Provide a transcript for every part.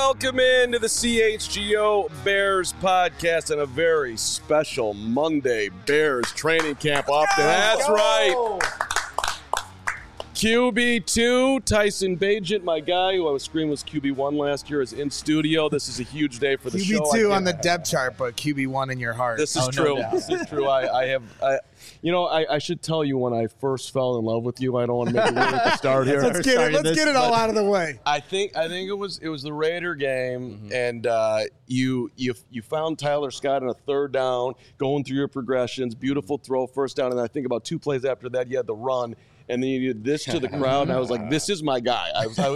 welcome into the CHGO Bears podcast on a very special Monday Bears training camp off. That's right. QB2, Tyson Bagent, my guy, who I was screaming was QB1 last year, is in studio. This is a huge day for the show. QB2 on the depth chart, but QB1 in your heart. This is true. No this is true. I should tell you when I first fell in love with you. I don't want to make it weird at the start here. Let's get it all out of the way. I think it was the Raider game, and you found Tyler Scott on a third down, going through your progressions, beautiful throw, first down, and I think about 2 plays after that you had the run. And then you did this to the crowd, and I was like, "This is my guy."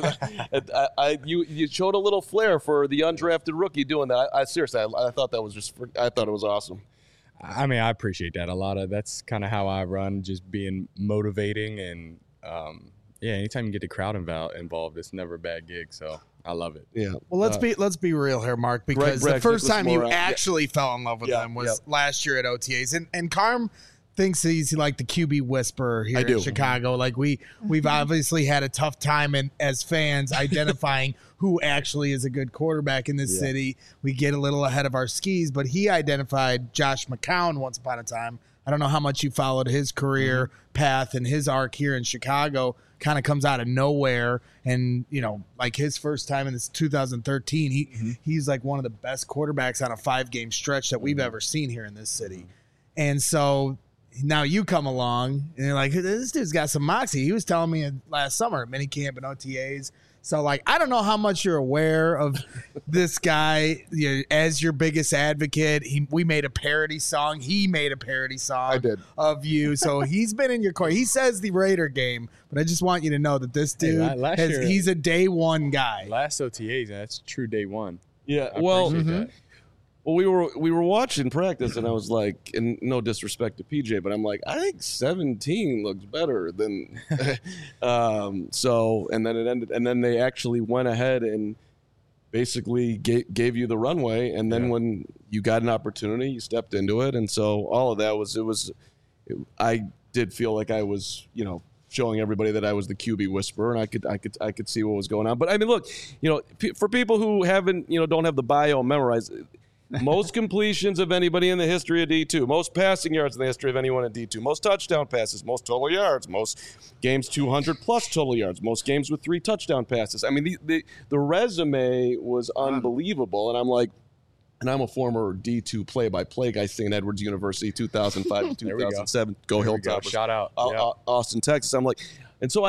You showed a little flair for the undrafted rookie doing that. I seriously, I thought that was I thought it was awesome. I mean, I appreciate that a lot. That's kind of how I run, just being motivating, and anytime you get the crowd involved, it's never a bad gig. So I love it. Yeah. Well, let's be real here, Mark, because the first time you actually fell in love with them was last year at OTAs, and Carm thinks he's like the QB whisperer here in Chicago. Like we've obviously had a tough time as fans identifying who actually is a good quarterback in this city. We get a little ahead of our skis, but he identified Josh McCown once upon a time. I don't know how much you followed his career path and his arc here in Chicago. Kind of comes out of nowhere, and like his first time in this 2013, he's like one of the best quarterbacks on a 5-game stretch that we've ever seen here in this city. And so now you come along and you're like, this dude's got some moxie. He was telling me last summer at minicamp and OTAs. So, like, I don't know how much you're aware of this guy as your biggest advocate. We made a parody song. He made a parody song of you. So he's been in your corner. He says the Raider game, but I just want you to know that this dude, he's a day one guy. Last OTAs, that's true day one. Yeah, Well, we were watching practice, and I was like, and no disrespect to PJ, but I'm like, I think 17 looks better than so. And then it ended, and then they actually went ahead and basically gave you the runway. And then when you got an opportunity, you stepped into it. And so all of that I did feel like I was, showing everybody that I was the QB whisperer, and I could see what was going on. But I mean, look, for people who haven't, don't have the bio memorized. Most completions of anybody in the history of D2, most passing yards in the history of anyone in D2, most touchdown passes, most total yards, most games 200-plus total yards, most games with 3 touchdown passes. I mean, the resume was unbelievable, and I'm like, and I'm a former D2 play-by-play guy, St. Edward's University, 2005 to 2007. Go Hilltoppers. Shout out. Austin, Texas. I'm like, and so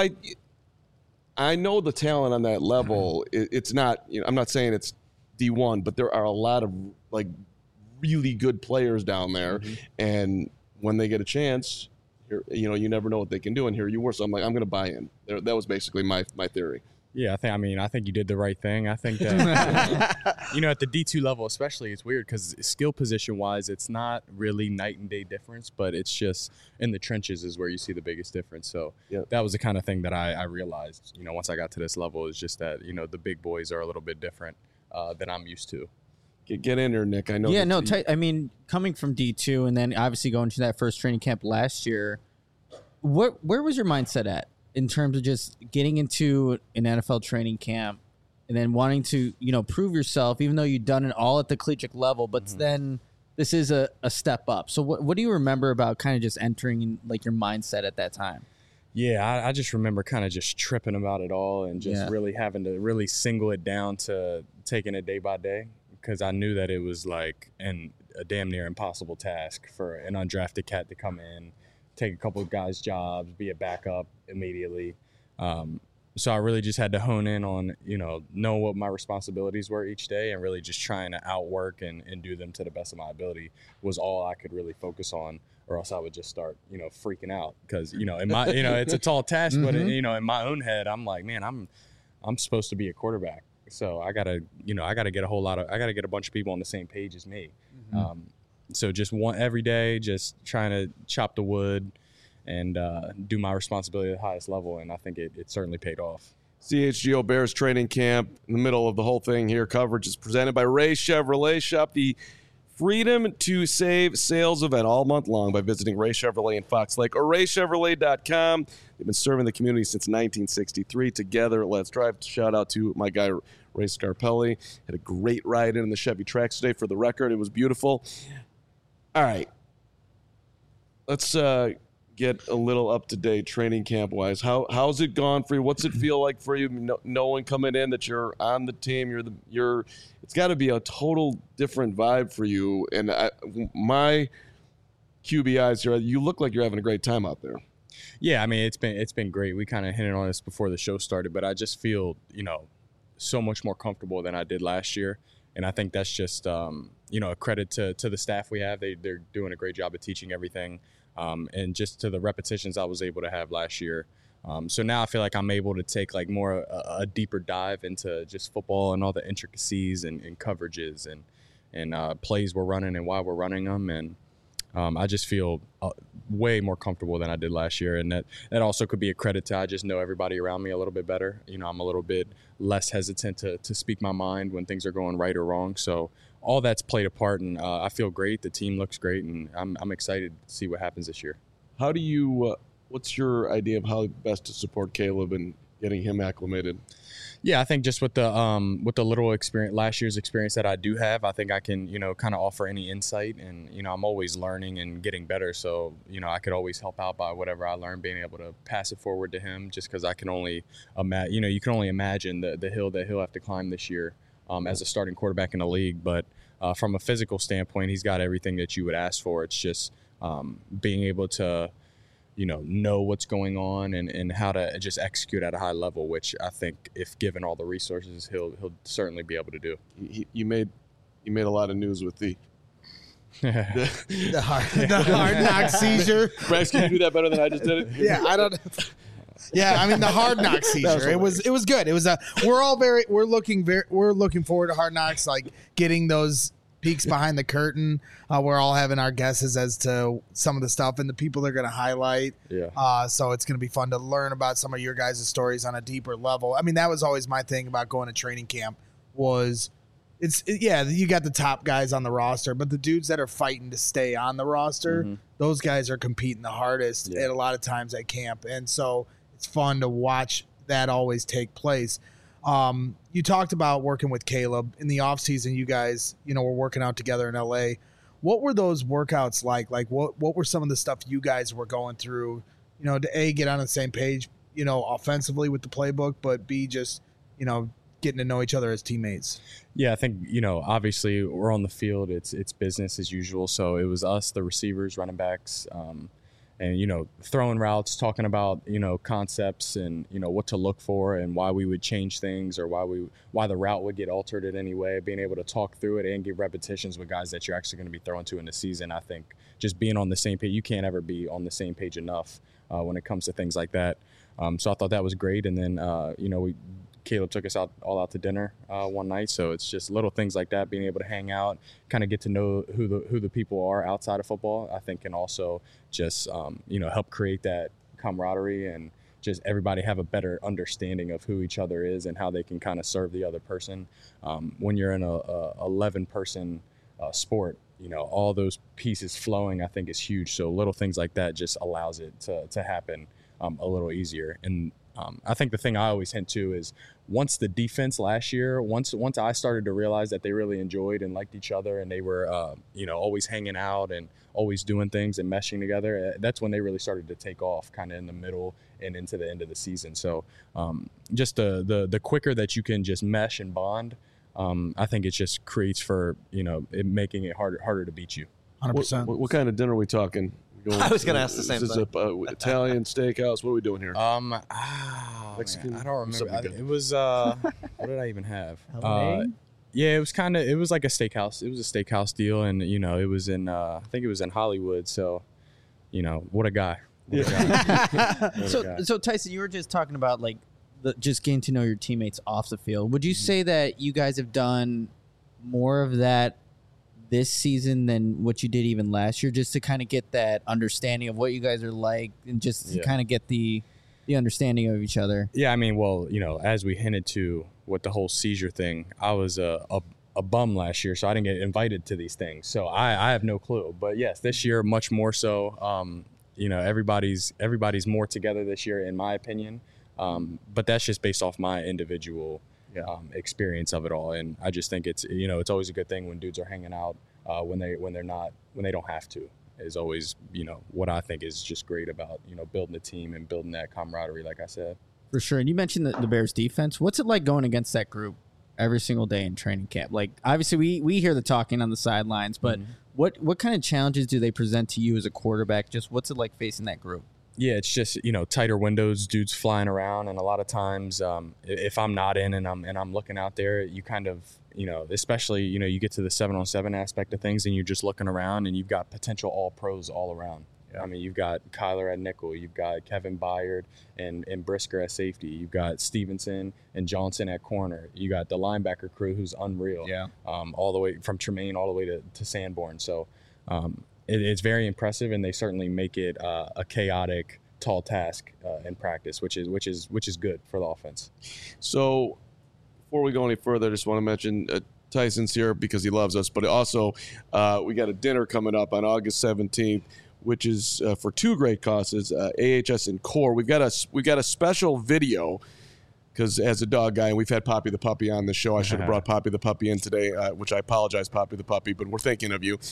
I know the talent on that level. It's not, I'm not saying it's D1, but there are a lot of like really good players down there, and when they get a chance, you never know what they can do, and here you were. So I'm like, I'm going to buy in. That was basically my theory. Yeah, I think you did the right thing. I think that at the D2 level especially, it's weird because skill position wise, it's not really night and day difference, but it's just in the trenches is where you see the biggest difference. So that was the kind of thing that I realized, once I got to this level, is just that the big boys are a little bit different than I'm used to. Get in there, Nick. I know. Yeah, coming from D2 and then obviously going to that first training camp last year, where was your mindset at in terms of just getting into an NFL training camp and then wanting to, prove yourself, even though you've done it all at the collegiate level, but then this is a step up. So what do you remember about kind of just entering like your mindset at that time? Yeah, I just remember kind of just tripping about it all and just really having to really single it down to taking it day by day, because I knew that it was like a damn near impossible task for an undrafted cat to come in, take a couple of guys' jobs, be a backup immediately. So I really just had to hone in on, know what my responsibilities were each day, and really just trying to outwork and do them to the best of my ability was all I could really focus on, or else I would just start, freaking out. Because, in my, it's a tall task, but, in my own head, I'm like, man, I'm supposed to be a quarterback. So I gotta get a bunch of people on the same page as me. So just every day, just trying to chop the wood and do my responsibility at the highest level. And I think it certainly paid off. CHGO Bears training camp in the middle of the whole thing here. Coverage is presented by Ray Chevrolet. Shop the freedom to save sales event all month long by visiting Ray Chevrolet in Fox Lake or raychevrolet.com. They've been serving the community since 1963. Together, let's drive. Shout out to my guy, Ray Scarpelli. Had a great ride in the Chevy Trax today. For the record, it was beautiful. All right. Let's get a little up-to-date training camp-wise. How's it gone for you? What's it feel like for you knowing coming in that you're on the team? It's got to be a total different vibe for you. And my QBIs here, you look like you're having a great time out there. Yeah, I mean, it's been great. We kind of hinted on this before the show started, but I just feel, so much more comfortable than I did last year. And I think that's just, a credit to the staff we have. They're doing a great job of teaching everything. And just to the repetitions I was able to have last year. So now I feel like I'm able to take like more a deeper dive into just football and all the intricacies and coverages and plays we're running and why we're running them. And I just feel way more comfortable than I did last year. And that also could be a credit to I just know everybody around me a little bit better. I'm a little bit less hesitant to speak my mind when things are going right or wrong. So all that's played a part, and I feel great. The team looks great, and I'm excited to see what happens this year. How do you what's your idea of how best to support Caleb and getting him acclimated? Yeah, I think just with the little experience, last year's experience that I do have, I think I can, kind of offer any insight, and, I'm always learning and getting better. So, I could always help out by whatever I learn, being able to pass it forward to him, just because I can only imagine, you can only imagine the hill that he'll have to climb this year as a starting quarterback in the league. But from a physical standpoint, he's got everything that you would ask for. It's just being able to, know what's going on and how to just execute at a high level, which I think if given all the resources, he'll certainly be able to do. You made a lot of news with the hard knock seizure. Bryce, can you do that better than I just did it? Yeah, I don't. Yeah, I mean the Hard Knocks seizure. It was good. It was we're looking forward to Hard Knocks, like getting those peeks behind the curtain. We're all having our guesses as to some of the stuff and the people they're going to highlight. Yeah. So it's going to be fun to learn about some of your guys' stories on a deeper level. I mean, that was always my thing about going to training camp was you got the top guys on the roster, but the dudes that are fighting to stay on the roster, those guys are competing the hardest at a lot of times at camp. And so it's fun to watch that always take place. You talked about working with Caleb in the off season. You guys, were working out together in LA. What were those workouts like? Like what were some of the stuff you guys were going through, to A, get on the same page, offensively with the playbook, but B, just, getting to know each other as teammates? Yeah, I think, obviously we're on the field. It's business as usual. So it was us, the receivers, running backs, and, throwing routes, talking about, concepts and, what to look for and why we would change things or why the route would get altered in any way, being able to talk through it and give repetitions with guys that you're actually going to be throwing to in the season. I think just being on the same page, you can't ever be on the same page enough when it comes to things like that. So I thought that was great. And then, Caleb took us all out to dinner one night. So it's just little things like that, being able to hang out, kind of get to know who the people are outside of football, I think can also just, help create that camaraderie and just everybody have a better understanding of who each other is and how they can kind of serve the other person. When you're in a 11-person sport, all those pieces flowing, I think is huge. So little things like that just allows it to happen a little easier. And I think the thing I always hint to is once the defense last year, once I started to realize that they really enjoyed and liked each other and they were, always hanging out and always doing things and meshing together, that's when they really started to take off kind of in the middle and into the end of the season. So just the quicker that you can just mesh and bond, I think it just creates for, it making it harder to beat you. 100%. What kind of dinner are we talking? I was going to ask the same thing. Is this Italian steakhouse? What are we doing here? Mexican. Man, I don't remember. It was what did I even have? Yeah, it was like a steakhouse. It was a steakhouse deal, and it was in I think it was in Hollywood. So, what a guy. So Tyson, you were just talking about like just getting to know your teammates off the field. Would you say that you guys have done more of that this season than what you did even last year, just to kind of get that understanding of what you guys are like and just to kind of get the understanding of each other? Yeah, I mean, well, as we hinted to with the whole seizure thing, I was a a bum last year, so I didn't get invited to these things. So I have no clue. But yes, this year much more so. Everybody's more together this year, in my opinion. But that's just based off my individual experience of it all. And I just think it's always a good thing when dudes are hanging out when they don't have to. Is always what I think is just great about building a team and building that camaraderie, like I said. For sure. And you mentioned the Bears defense. What's it like going against that group every single day in training camp? Like, obviously we hear the talking on the sidelines, but what kind of challenges do they present to you as a quarterback? Just what's it like facing that group? Yeah, it's just, tighter windows, dudes flying around. And a lot of times if I'm not in and I'm looking out there, you kind of, especially, you get to the 7-on-7 aspect of things and you're just looking around and you've got potential all pros all around. I mean, you've got Kyler at nickel, you've got Kevin Byard and Brisker at safety, you've got Stevenson and Johnson at corner, you got the linebacker crew who's unreal, all the way from Tremaine all the way to Sanborn. So it's very impressive, and they certainly make it a chaotic, tall task in practice, which is good for the offense. So before we go any further, I just want to mention Tyson's here because he loves us, but also we got a dinner coming up on August 17th. Which is for two great causes, AHS and CORE. We've got a special video because as a dog guy, and we've had Poppy the Puppy on the show. I should have brought Poppy the Puppy in today, which I apologize, Poppy the Puppy, but we're thinking of you.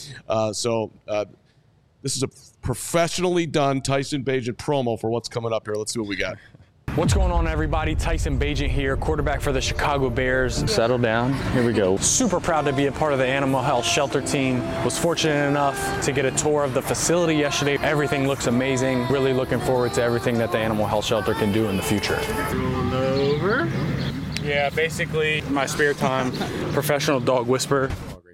This is a professionally done Tyson Bagent promo for what's coming up here. Let's see what we got. What's going on, everybody? Tyson Bagent here, quarterback for the Chicago Bears. Settle down. Here we go. Super proud to be a part of the Animal Health Shelter team. Was fortunate enough to get a tour of the facility yesterday. Everything looks amazing. Really looking forward to everything that the Animal Health Shelter can do in the future. Roll over. Yeah, basically my spare time, professional dog whisperer.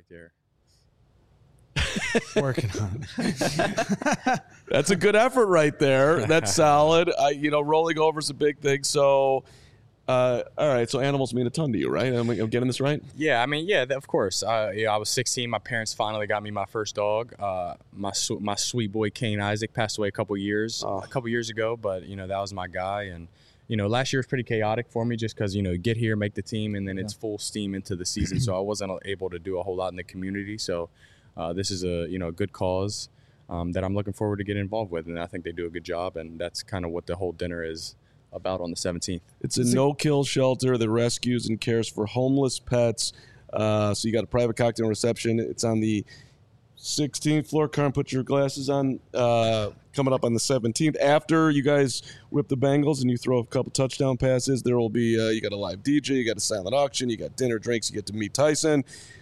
Working on it. That's a good effort right there. That's solid. Rolling over is a big thing. So, all right. So animals mean a ton to you, right? I'm getting this right? Yeah. I mean, yeah, of course. I was 16. My parents finally got me my first dog. My sweet boy, Kane Isaac, passed away a couple years ago. But, that was my guy. And, last year was pretty chaotic for me just because, get here, make the team, and then it's full steam into the season. So I wasn't able to do a whole lot in the community. So this is a good cause that I'm looking forward to getting involved with, and I think they do a good job, and that's kind of what the whole dinner is about on the 17th. It's a no-kill shelter that rescues and cares for homeless pets. So you got a private cocktail reception. It's on the 16th floor. Carm, put your glasses on. Coming up on the 17th. After you guys whip the Bengals and you throw a couple touchdown passes, there will be you got a live DJ, you got a silent auction, you got dinner, drinks, you get to meet Tyson.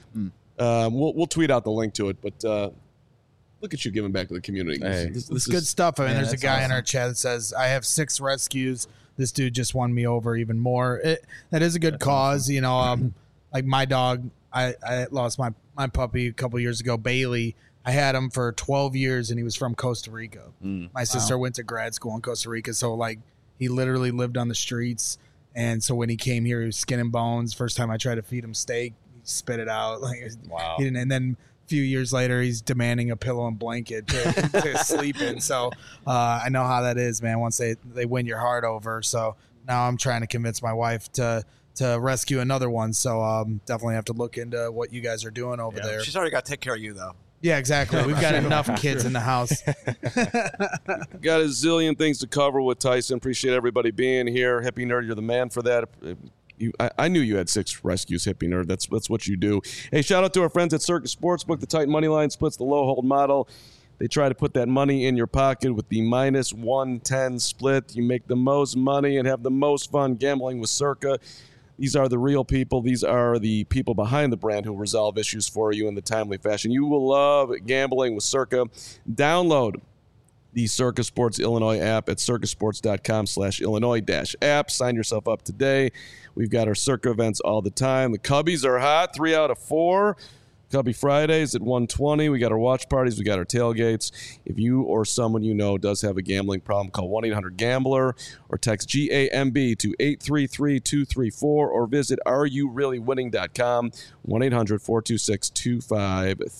We'll tweet out the link to it, but look at you giving back to the community. Hey, this is good stuff. I mean, there's a guy in our chat that says, I have 6 rescues. This dude just won me over even more. That is a good cause. Awesome. Like my dog, I lost my puppy a couple years ago, Bailey. I had him for 12 years, and he was from Costa Rica. My sister went to grad school in Costa Rica, so he literally lived on the streets. And so when he came here, he was skin and bones. First time I tried to feed him steak, spit it out. Wow. And then a few years later, he's demanding a pillow and blanket to sleep in. So I know how that is, man, once they win your heart over. So now I'm trying to convince my wife to rescue another one. So definitely have to look into what you guys are doing over there. She's already got to take care of you, though. Yeah, exactly. We've got enough kids in the house. Got a zillion things to cover with Tyson. Appreciate everybody being here. Hippie Nerd, you're the man for that. I knew you had 6 rescues, Hippie Nerd. That's what you do. Hey, shout out to our friends at Circus Sportsbook. The tight money line splits the low hold model. They try to put that money in your pocket with the minus 110 split. You make the most money and have the most fun gambling with Circa. These are the real people. These are the people behind the brand who resolve issues for you in the timely fashion. You will love gambling with Circa. Download the Circa Sports Illinois app at circasports.com/Illinois-app. Sign yourself up today. We've got our Circa events all the time. The Cubbies are hot, 3 out of 4. Cubby Fridays at 1:20. We got our watch parties. We got our tailgates. If you or someone you know does have a gambling problem, call 1-800-GAMBLER or text GAMB to 833-234 or visit areyoureallywinning.com,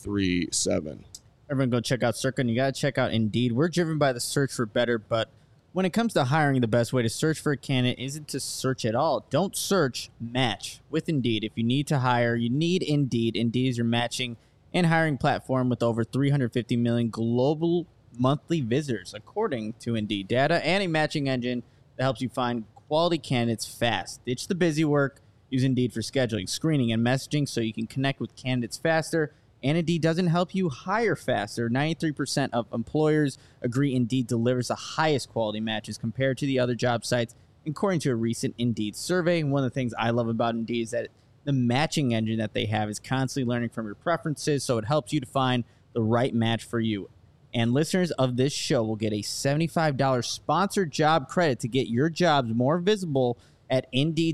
1-800-426-2537. Everyone go check out Circa, and you got to check out Indeed. We're driven by the search for better, but When it comes to hiring, the best way to search for a candidate isn't to search at all. Don't search, match with Indeed. If you need to hire, you need Indeed. Indeed is your matching and hiring platform with over 350 million global monthly visitors, according to Indeed data, and a matching engine that helps you find quality candidates fast. Ditch the busy work. Use Indeed for scheduling, screening, and messaging so you can connect with candidates faster. And Indeed doesn't help you hire faster. 93% of employers agree Indeed delivers the highest quality matches compared to the other job sites, according to a recent Indeed survey. One of the things I love about Indeed is that the matching engine that they have is constantly learning from your preferences, so it helps you to find the right match for you. And listeners of this show will get a $75 sponsored job credit to get your jobs more visible at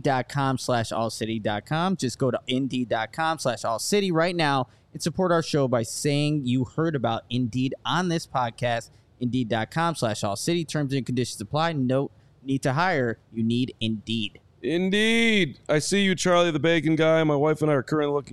Indeed.com/allcity.com. Just go to Indeed.com/allcity right now and support our show by saying you heard about Indeed on this podcast. Indeed.com/allcity. Terms and conditions apply. No need to hire. You need Indeed. Indeed. I see you, Charlie the Bacon Guy. My wife and I are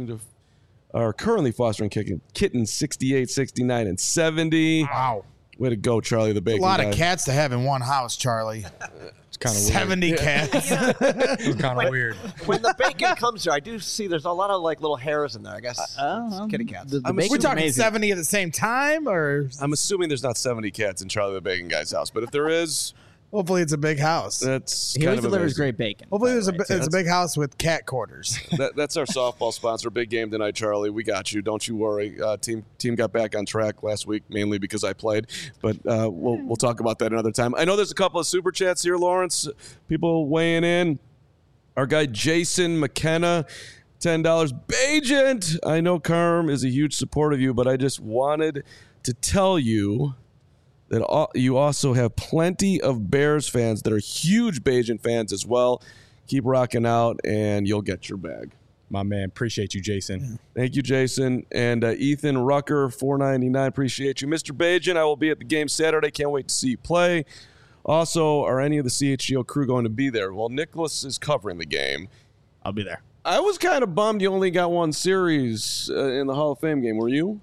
currently fostering kittens 68, 69, and 70. Wow. Way to go, Charlie the Bacon Guy. A lot of cats to have in one house, Charlie. It's kind of 70 cats. It's kind of weird. When the bacon comes here, I do see there's a lot of like little hairs in there. I guess kitty cats. We're talking amazing. 70 at the same time, or I'm assuming there's not 70 cats in Charlie the Bacon Guy's house, but if there is, hopefully it's a big house. He always delivers great bacon. Hopefully it's a big house with cat quarters. That's our softball sponsor. Big game tonight, Charlie. We got you. Don't you worry. Team got back on track last week, mainly because I played. But we'll talk about that another time. I know there's a couple of super chats here, Lawrence. People weighing in. Our guy Jason McKenna, $10. Bajent. I know Carm is a huge supporter of you, but I just wanted to tell you that you also have plenty of Bears fans that are huge Bajent fans as well. Keep rocking out, and you'll get your bag. My man, appreciate you, Jason. Thank you, Jason. And Ethan Rucker, $4.99, appreciate you. Mr. Bajent, I will be at the game Saturday. Can't wait to see you play. Also, are any of the CHGO crew going to be there? Well, Nicholas is covering the game. I'll be there. I was kind of bummed you only got one series in the Hall of Fame game. Were you?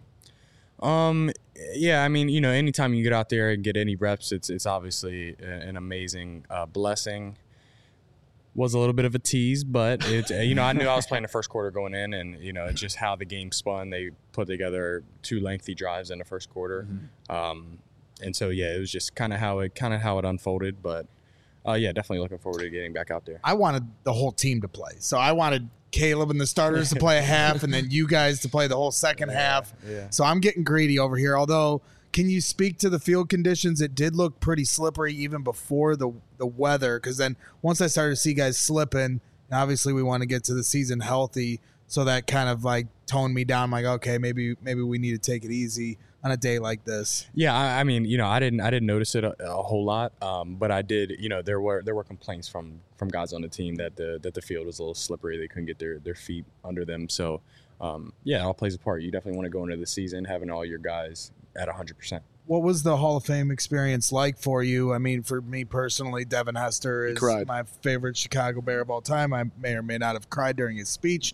Yeah, I mean, anytime you get out there and get any reps, it's obviously an amazing blessing. Was a little bit of a tease, but I knew I was playing the first quarter going in, and it's just how the game spun. They put together 2 lengthy drives in the first quarter, and so it was just kind of how it unfolded. But definitely looking forward to getting back out there. I wanted the whole team to play, so I wanted Caleb and the starters to play a half, and then you guys to play the whole second half. Yeah. So I'm getting greedy over here. Although, can you speak to the field conditions? It did look pretty slippery even before the weather, because then once I started to see guys slipping, obviously we want to get to the season healthy, so that kind of like toned me down. I'm like, okay, maybe we need to take it easy on a day like this. Yeah, I mean, I didn't notice it a whole lot, but I did. There were complaints from guys on the team that the field was a little slippery. They couldn't get their feet under them. So, it all plays a part. You definitely want to go into the season having all your guys at 100%. What was the Hall of Fame experience like for you? I mean, for me personally, Devin Hester is my favorite Chicago Bear of all time. I may or may not have cried during his speech.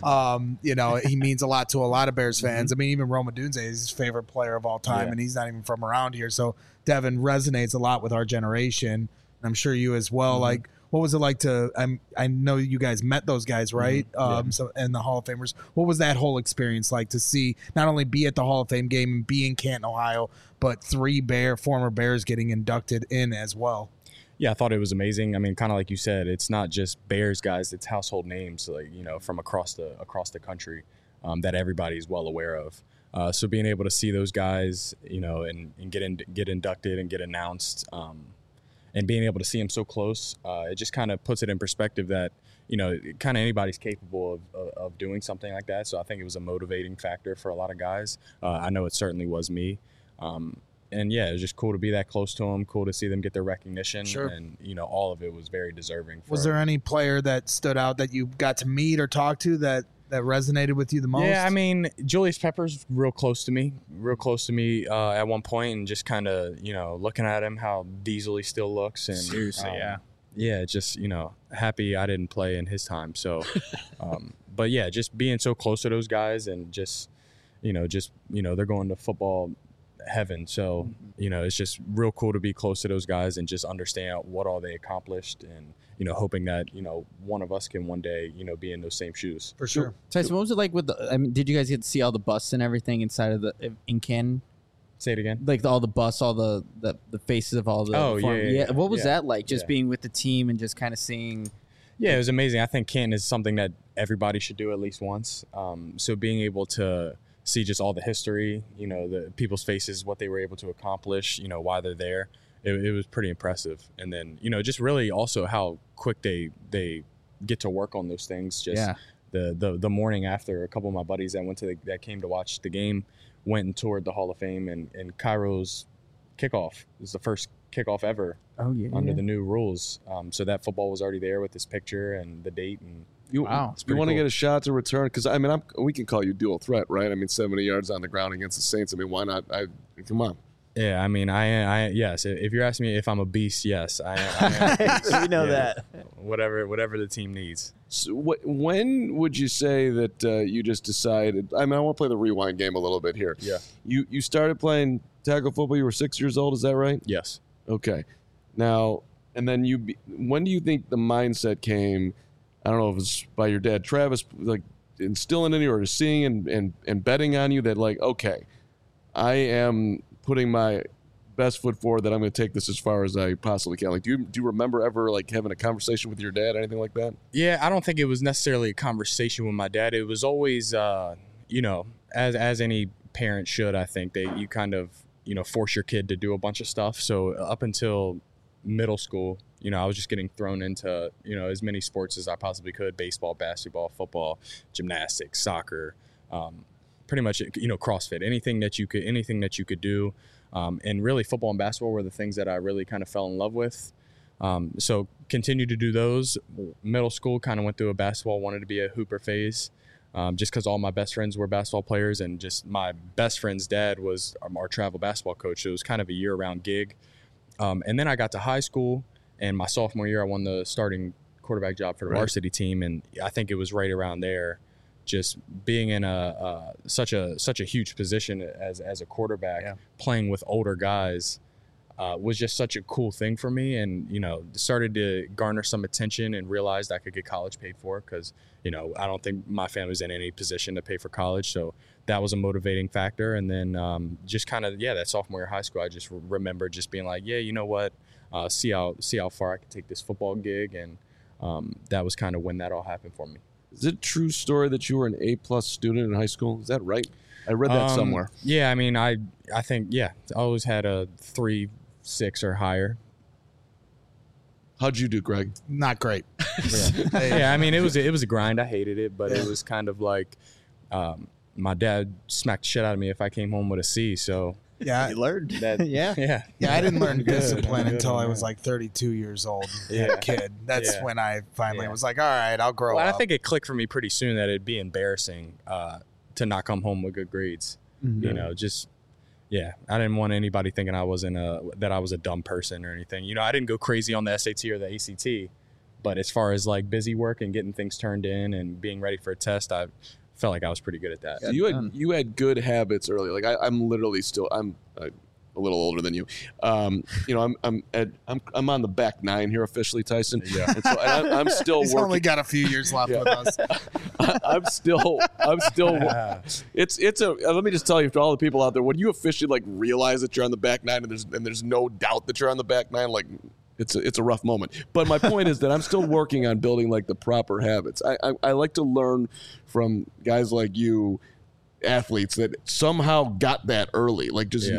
He means a lot to a lot of Bears fans. I mean, even Rome Odunze is his favorite player of all time, and he's not even from around here. So Devin resonates a lot with our generation, and I'm sure you as well. Like, what was it like to? I know you guys met those guys, right? So and the Hall of Famers. What was that whole experience like to see not only be at the Hall of Fame game and be in Canton, Ohio, but 3 former Bears getting inducted in as well? Yeah, I thought it was amazing. I mean, kind of like you said, it's not just Bears guys; it's household names, like from across the country that everybody's well aware of. So being able to see those guys, and get inducted and get announced. And being able to see him so close, it just kind of puts it in perspective that, kind of anybody's capable of doing something like that. So I think it was a motivating factor for a lot of guys. I know it certainly was me. And it was just cool to be that close to them, cool to see them get their recognition. Sure. And, all of it was very deserving. Was there any player that stood out that you got to meet or talk to that resonated with you the most? Yeah, I mean, Julius Peppers real close to me at one point, and just kind of, looking at him, how diesel he still looks. And seriously, just, happy I didn't play in his time. So, but yeah, just being so close to those guys and just, they're going to football heaven. So, it's just real cool to be close to those guys and just understand what all they accomplished, and, hoping that, one of us can one day, be in those same shoes. For sure. Tyson, what was it like with did you guys get to see all the busts and everything inside of in Canton? Say it again. Like all the busts, all the faces of all the. Yeah. What was that like? Just being with the team and just kind of seeing. Yeah, it was amazing. I think Canton is something that everybody should do at least once. So being able to see just all the history, the people's faces, what they were able to accomplish, why they're there, it was pretty impressive. And then, just really also how quick they get to work on those things. Just the morning after, a couple of my buddies that came to watch the game went and toured the Hall of Fame, and Cairo's kickoff is the first kickoff ever under the new rules. So that football was already there with this picture and the date. And you want to get a shot to return? Because we can call you dual threat, right? 70 yards on the ground against the Saints. Why not? Come on. Yeah, I yes. If you're asking me if I'm a beast, yes, I am. A beast. We know that. Whatever the team needs. So when would you say that you just decided? I want to play the rewind game a little bit here. Yeah. You started playing tackle football. You were 6 years old. Is that right? Yes. Okay. Now, and then when do you think the mindset came? I don't know if it was by your dad, Travis, like instilling in you or seeing and betting on you that like, okay, I am putting my best foot forward that I'm going to take this as far as I possibly can. Like, do you remember ever like having a conversation with your dad, anything like that? Yeah, I don't think it was necessarily a conversation with my dad. It was always, as any parent should, I think you kind of, force your kid to do a bunch of stuff. So up until middle school, I was just getting thrown into, as many sports as I possibly could: baseball, basketball, football, gymnastics, soccer, pretty much, CrossFit, anything that you could do. And really football and basketball were the things that I really kind of fell in love with. So continued to do those. Middle school, kind of went through a basketball, wanted to be a hooper phase. Just because all my best friends were basketball players, and just my best friend's dad was our travel basketball coach. So it was kind of a year-round gig. And then I got to high school, and my sophomore year, I won the starting quarterback job for the varsity team. And I think it was right around there, just being in such a huge position as a quarterback, playing with older guys, was just such a cool thing for me. And, started to garner some attention and realized I could get college paid for, because, I don't think my family's in any position to pay for college. So that was a motivating factor. And then just kind of, that sophomore year of high school, I just remember just being like, you know what, see how far I can take this football gig. And that was kind of when that all happened for me. Is it a true story that you were an A+ student in high school? Is that right? I read that somewhere. Yeah, I think, I always had a 3.6 or higher. How'd you do, Greg? Not great. It was a grind. I hated it, but it was kind of like my dad smacked the shit out of me if I came home with a C. So yeah, you learned that. Yeah. I didn't learn discipline until I was like 32 years old. A kid. That's when I finally was like, all right, I'll grow up. I think it clicked for me pretty soon that it'd be embarrassing to not come home with good grades. Mm-hmm. I didn't want anybody thinking that I was a dumb person or anything. I didn't go crazy on the SAT or the ACT, but as far as like busy work and getting things turned in and being ready for a test, I felt like I was pretty good at that. So you had good habits early. Like I'm literally still I'm a little older than you. I'm on the back 9 here officially, Tyson. Yeah. And so I'm still He's working. only got a few years left with us. I'm still. It's a. Let me just tell you, to all the people out there, when you officially like realize that you're on the back 9 and there's no doubt that you're on the back 9, like it's a rough moment. But my point is that I'm still working on building like the proper habits. I like to learn from guys like you, athletes that somehow got that early, like just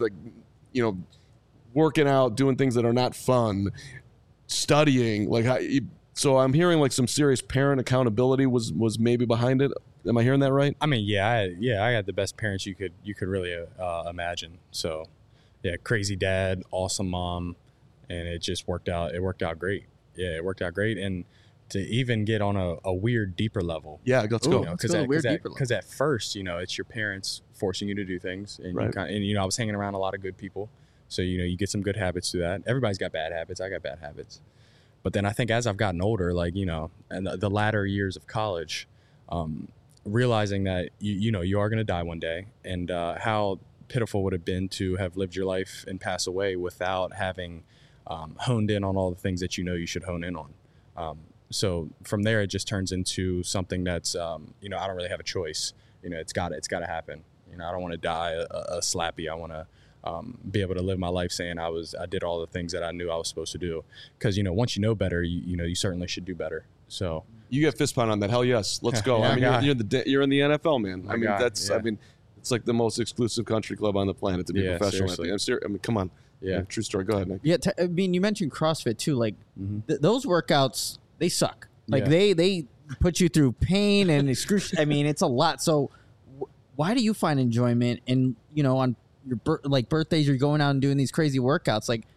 working out, doing things that are not fun, studying. So I'm hearing like some serious parent accountability was maybe behind it. Am I hearing that right? I had the best parents you could really imagine. So crazy dad, awesome mom, and it just worked out. It worked out great. Yeah, it worked out great. And to even get on a weird, deeper level. Yeah, let's go. Because at first, it's your parents forcing you to do things, and I was hanging around a lot of good people, so you get some good habits through that. Everybody's got bad habits. I got bad habits, but then I think as I've gotten older, and the latter years of college, realizing that you are going to die one day, and how pitiful would have been to have lived your life and pass away without having honed in on all the things that you should hone in on. So from there, it just turns into something that's, I don't really have a choice. It's got to happen. I don't want to die a slappy. I want to be able to live my life saying I did all the things that I knew I was supposed to do. Because, once you know better, you certainly should do better. So you get fist pound on that. Hell yes. Let's go. Yeah, you're in the NFL, man. It's like the most exclusive country club on the planet to be professional. I'm serious. Come on. Yeah. True story. Go ahead, Nick. Yeah. You mentioned CrossFit too. Like those workouts, they suck. Like they put you through pain and excruciating. It's a lot. So why do you find enjoyment in, on your birthdays, you're going out and doing these crazy workouts? Like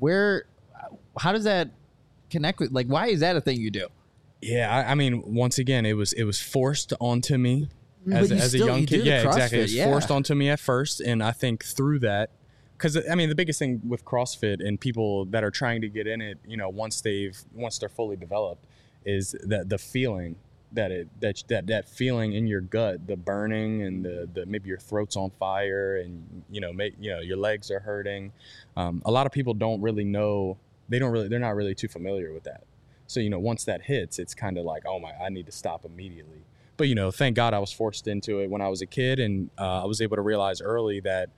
how does that connect with, why is that a thing you do? Yeah. Once again, it was forced onto me as a young kid. Yeah, exactly. It was forced onto me at first. And I think through that, because the biggest thing with CrossFit and people that are trying to get in it, once they're fully developed, is that the feeling that feeling in your gut, the burning and the maybe your throat's on fire and your legs are hurting. A lot of people don't really know. They're not really too familiar with that. So once that hits, it's kind of like, oh my, I need to stop immediately. But thank God I was forced into it when I was a kid, and I was able to realize early that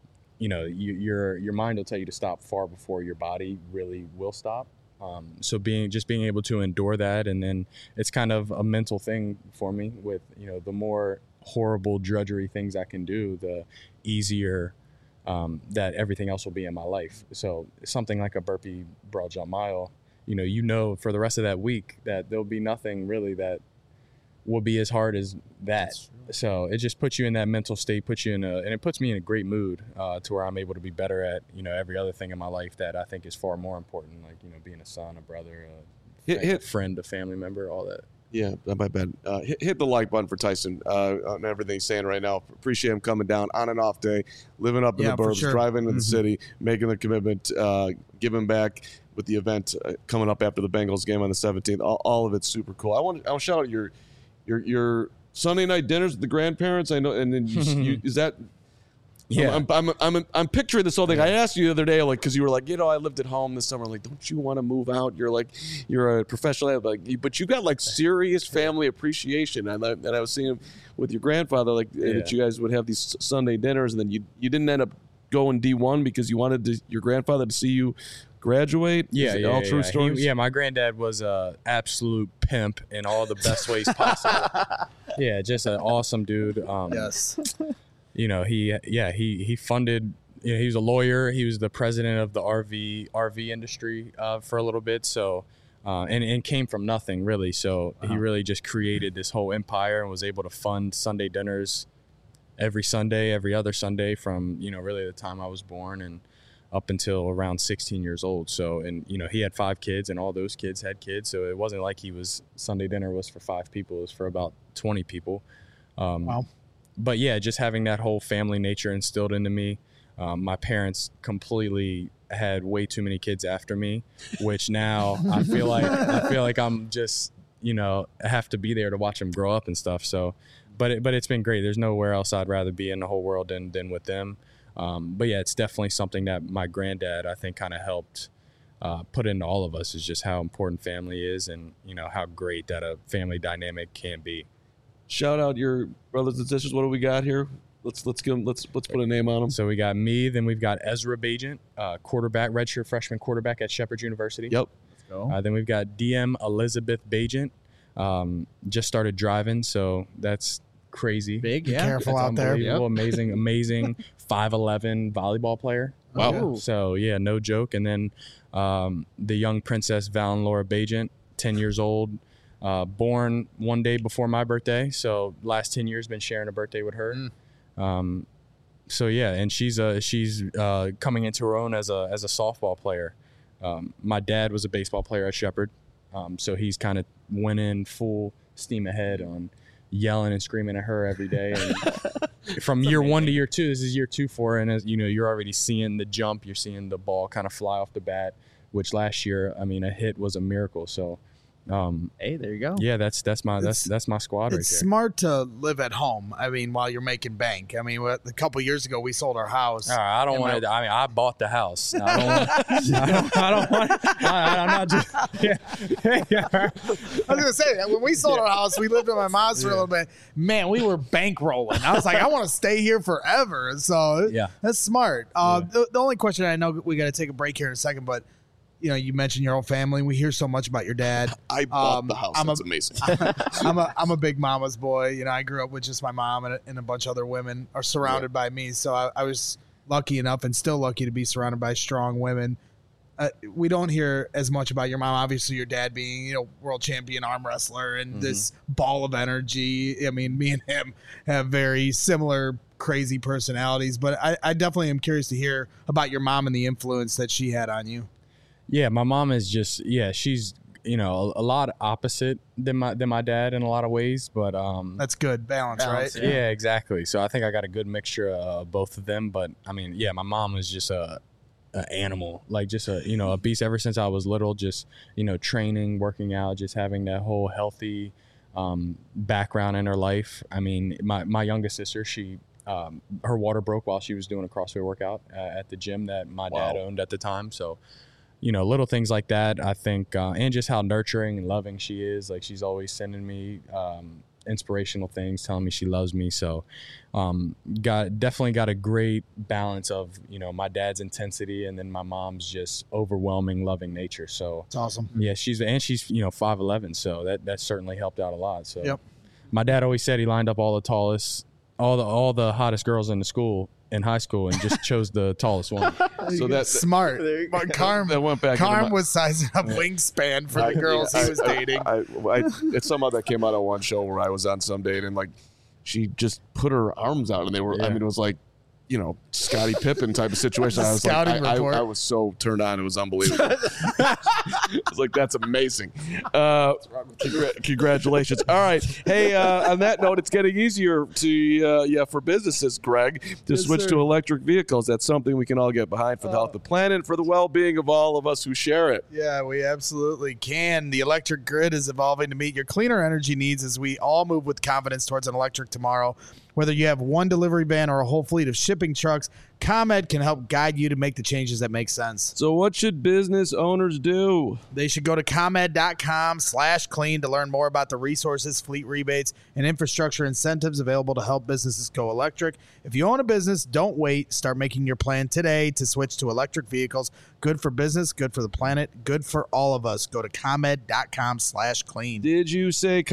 your mind will tell you to stop far before your body really will stop. So being able to endure that, and then it's kind of a mental thing for me with, the more horrible drudgery things I can do, the easier that everything else will be in my life. So something like a burpee broad jump mile, for the rest of that week that there'll be nothing really that will be as hard as that. So it just puts you in that mental state, and it puts me in a great mood to where I'm able to be better at, every other thing in my life that I think is far more important, like, being a son, a brother, a friend, a family member, all that. Yeah, my bad. Hit the like button for Tyson on everything he's saying right now. Appreciate him coming down on and off day, living up in the burbs, driving into the city, making the commitment, giving back with the event coming up after the Bengals game on the 17th. All of it's super cool. I want to shout out your Sunday night dinners with the grandparents. I know, and then is that? Yeah, I'm picturing this whole thing. I asked you the other day, because you were like, I lived at home this summer. Like, don't you want to move out? You're a professional, but you got serious family appreciation. And I was seeing with your grandfather, that you guys would have these Sunday dinners, and then you didn't end up going D1 because you wanted your grandfather to see you graduate. Yeah, true stories. My granddad was a absolute pimp in all the best ways possible. Yeah, just an awesome dude. Yes. He funded. He was a lawyer. He was the president of the RV industry for a little bit. So, and came from nothing really. So he really just created this whole empire and was able to fund Sunday dinners every Sunday, every other Sunday from really the time I was born and up until around 16 years old. So, and he had 5 kids, and all those kids had kids. So it wasn't like Sunday dinner was for 5 people. It was for about 20 people. Wow. But yeah, just having that whole family nature instilled into me. My parents completely had way too many kids after me, which now I feel like I'm just, I have to be there to watch them grow up and stuff. So, but it's been great. There's nowhere else I'd rather be in the whole world than with them. But yeah, it's definitely something that my granddad, I think, kind of helped put into all of us, is just how important family is, and how great that a family dynamic can be. Shout out your brothers and sisters. What do we got here? Let's put a name on them. So we got me, then we've got Ezra Bajent, quarterback, redshirt freshman quarterback at Shepherd University. Yep. Let's go. Then we've got DM Elizabeth Bajent, just started driving, so that's crazy. Big, yeah. Careful out there. Yep. Amazing 5'11" volleyball player. Wow. So yeah, no joke. And then the young princess Valen Laura Bajent, 10 years old. Born one day before my birthday, so last 10 years been sharing a birthday with her. So yeah, and she's coming into her own as a softball player. My dad was a baseball player at Shepherd, so he's kind of went in full steam ahead on yelling and screaming at her every day. And from year 1 to year 2, this is year 2 for her, and as you're already seeing the jump, you're seeing the ball kind of fly off the bat, which last year, a hit was a miracle. So Hey, there you go. Yeah, that's my squad right there. It's smart to live at home. I mean, while you're making bank. I mean, a couple of years ago we sold our house. I don't want to. I mean, I bought the house. I don't want. I'm not just. Yeah. I was gonna say that when we sold our house, we lived in my mom's for a little bit. Man, we were bankrolling. I was like, I want to stay here forever. So that's smart. The only question, I know we got to take a break here in a second, but. You know, you mentioned your whole family. We hear so much about your dad. I bought the house. That's amazing. I'm a big mama's boy. You know, I grew up with just my mom and a bunch of other women are surrounded by me. So I was lucky enough and still lucky to be surrounded by strong women. We don't hear as much about your mom. Obviously, your dad being, you know, world champion arm wrestler and this ball of energy. I mean, me and him have very similar crazy personalities. But I definitely am curious to hear about your mom and the influence that she had on you. Yeah, my mom is just she's a lot opposite than my dad in a lot of ways, but that's good balance, right? Yeah, exactly. So I think I got a good mixture of both of them. But I mean, my mom was just a animal, like just a beast ever since I was little. Just training, working out, just having that whole healthy background in her life. I mean, my youngest sister, she. Her water broke while she was doing a CrossFit workout at the gym that my dad owned at the time. So. Little things like that, I think, and just how nurturing and loving she is. Like, she's always sending me inspirational things, telling me she loves me. So, definitely got a great balance of, my dad's intensity and then my mom's just overwhelming, loving nature. So it's awesome. Yeah, she's 5'11", so that certainly helped out a lot. So, my dad always said he lined up all the hottest girls in the school. In high school and just chose the tallest one. So that's smart. But Carm was sizing up wingspan for the girls he was dating. It's some other that came out on one show where I was on some date and like she just put her arms out and they were. I mean, it was like Scottie Pippen type of situation. I was I was so turned on. It was unbelievable. I was like, that's amazing. Congratulations. All right. Hey, on that note, it's getting easier for businesses, Greg, to switch to electric vehicles. That's something we can all get behind for the health of the planet and for the well-being of all of us who share it. Yeah, we absolutely can. The electric grid is evolving to meet your cleaner energy needs as we all move with confidence towards an electric tomorrow. Whether you have one delivery van or a whole fleet of shipping trucks, ComEd can help guide you to make the changes that make sense. So what should business owners do? They should go to ComEd.com/clean to learn more about the resources, fleet rebates, and infrastructure incentives available to help businesses go electric. If you own a business, don't wait. Start making your plan today to switch to electric vehicles. Good for business, good for the planet, good for all of us. Go to ComEd.com/clean. Did you say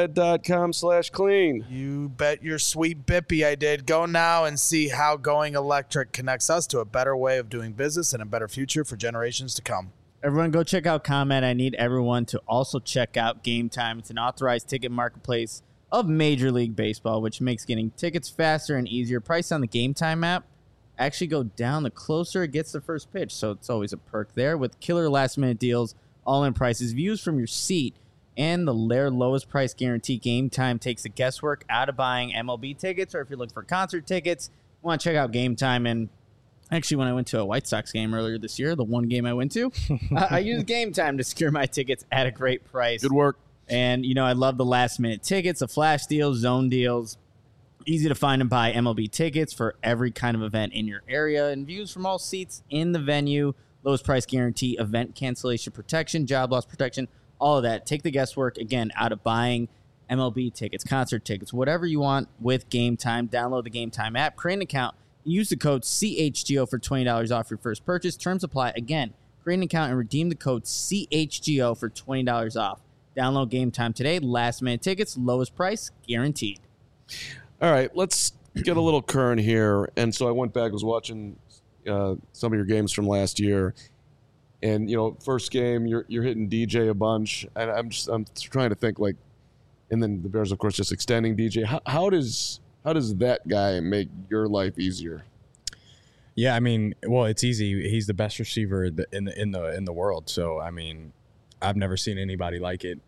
ComEd.com/clean? You bet your sweet bippy I did. Go now and see how going electric connects us to a better way of doing business and a better future for generations to come. Everyone go check out ComEd. I need everyone to also check out Game Time. It's an authorized ticket marketplace of Major League Baseball, which makes getting tickets faster and easier. Price on the Game Time app actually go down the closer it gets the first pitch, so it's always a perk there. With killer last-minute deals, all-in prices, views from your seat, and their lowest price guarantee, Game Time takes the guesswork out of buying MLB tickets, or if you're looking for concert tickets, you want to check out Game Time. And actually, when I went to a White Sox game earlier this year, the one game I went to, I used Game Time to secure my tickets at a great price. Good work. And, I love the last-minute tickets, the flash deals, zone deals. Easy to find and buy MLB tickets for every kind of event in your area, and views from all seats in the venue, lowest price guarantee, event cancellation protection, job loss protection, all of that. Take the guesswork, again, out of buying MLB tickets, concert tickets, whatever you want with Game Time. Download the Game Time app, create an account, use the code CHGO for $20 off your first purchase. Terms apply. Again, create an account and redeem the code CHGO for $20 off. Download Game Time today. Last-minute tickets, lowest price, guaranteed. All right, let's get a little current here. And so I went back, was watching some of your games from last year. And, first game, you're hitting DJ a bunch. And I'm trying to think, like, and then the Bears, of course, just extending DJ. How does that guy make your life easier? Yeah, I mean, well, it's easy. He's the best receiver in the world. So, I mean, I've never seen anybody like it.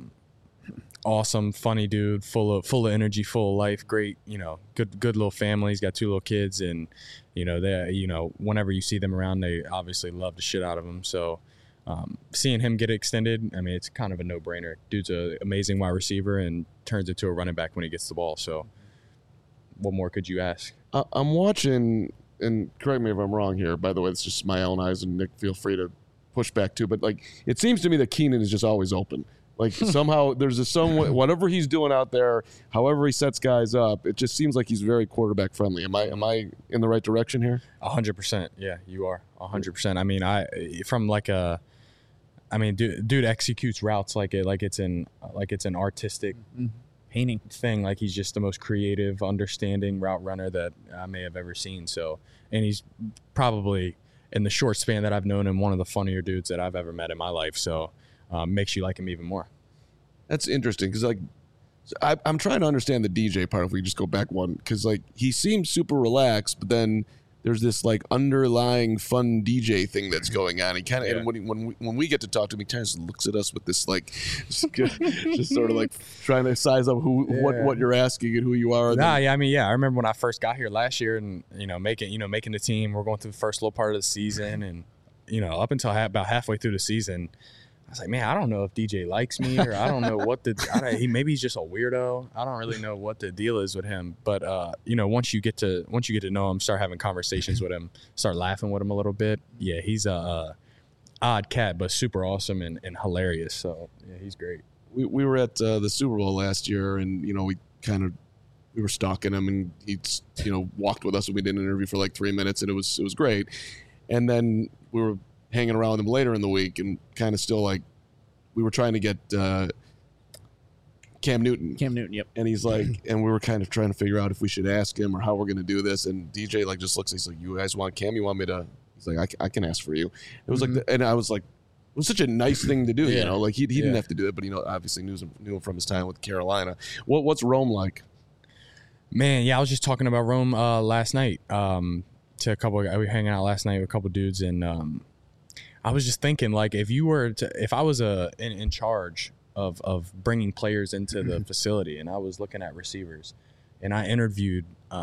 Awesome, funny dude, full of energy, full of life. Great, good little family. He's got 2 little kids, and they, whenever you see them around, they obviously love the shit out of him. So, seeing him get extended, I mean, it's kind of a no-brainer. Dude's an amazing wide receiver and turns into a running back when he gets the ball. So what more could you ask? I'm watching, and correct me if I'm wrong here, by the way, it's just my own eyes, and Nick, feel free to push back too, but like it seems to me that Keenan is just always open. Like somehow there's whatever he's doing out there, however he sets guys up, it just seems like he's very quarterback friendly. Am I in the right direction here? 100%. Yeah, you are 100%. I mean, dude executes routes like it's an artistic painting thing. Like he's just the most creative, understanding route runner that I may have ever seen. So, and he's probably, in the short span that I've known him, one of the funnier dudes that I've ever met in my life. So makes you like him even more. That's interesting because like I'm trying to understand the DJ part. If we just go back one, because like he seems super relaxed, but then there's this like underlying fun DJ thing that's going on. He kind of, and when we get to talk to him, he kind of looks at us with this like, just sort of like trying to size up what you're asking and who you are. I remember when I first got here last year, and making the team. We're going through the first little part of the season, and up until about halfway through the season, I was like, man, I don't know if DJ likes me, or I don't know what maybe he's just a weirdo. I don't really know what the deal is with him. But once you get to know him, start having conversations with him, start laughing with him a little bit. Yeah, he's a odd cat, but super awesome and hilarious. So yeah, he's great. We were at the Super Bowl last year, and we were stalking him, and he walked with us, and we did an interview for like 3 minutes, and it was great. And then we were hanging around with him later in the week, and kind of still like we were trying to get Cam Newton. Yep. And he's like, and we were kind of trying to figure out if we should ask him or how we're going to do this. And DJ like just looks, he's like, you guys want Cam? You want me to? He's like, I can ask for you. It was like, and I was like, it was such a nice thing to do, like he didn't have to do it, but obviously knew him from his time with Carolina. What's Rome like? Man, yeah, I was just talking about Rome last night to a couple. We were hanging out last night with a couple dudes, and I was just thinking, like, if I was in charge of bringing players into the facility, and I was looking at receivers, and I interviewed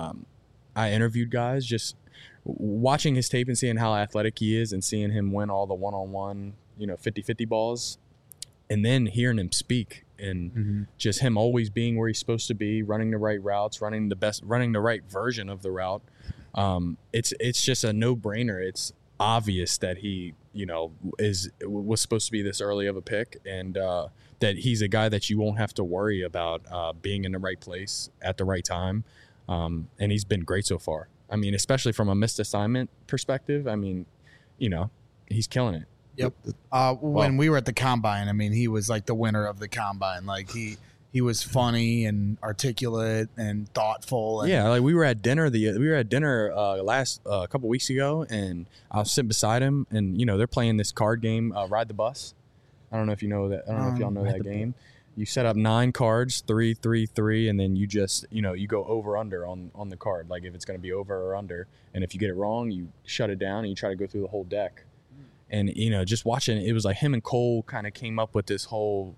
guys, just watching his tape and seeing how athletic he is, and seeing him win all the one-on-one, 50-50 balls, and then hearing him speak, and just him always being where he's supposed to be, running the right routes, running the right version of the route. It's just a no-brainer. It's obvious that he was supposed to be this early of a pick, and that he's a guy that you won't have to worry about being in the right place at the right time, and he's been great so far. I mean, especially from a missed assignment perspective, I mean, he's killing it. Yep. When we were at the Combine, I mean, he was like the winner of the Combine. Like he was funny and articulate and thoughtful. And yeah, like we were at dinner last a couple weeks ago, and I was sitting beside him, and they're playing this card game, Ride the Bus. I don't know if you know that. I don't know if y'all know that game. You set up 9 cards, 3, 3, 3, and then you just you go over under on the card, like if it's going to be over or under, and if you get it wrong, you shut it down and you try to go through the whole deck. And just watching it was like him and Cole kind of came up with this whole,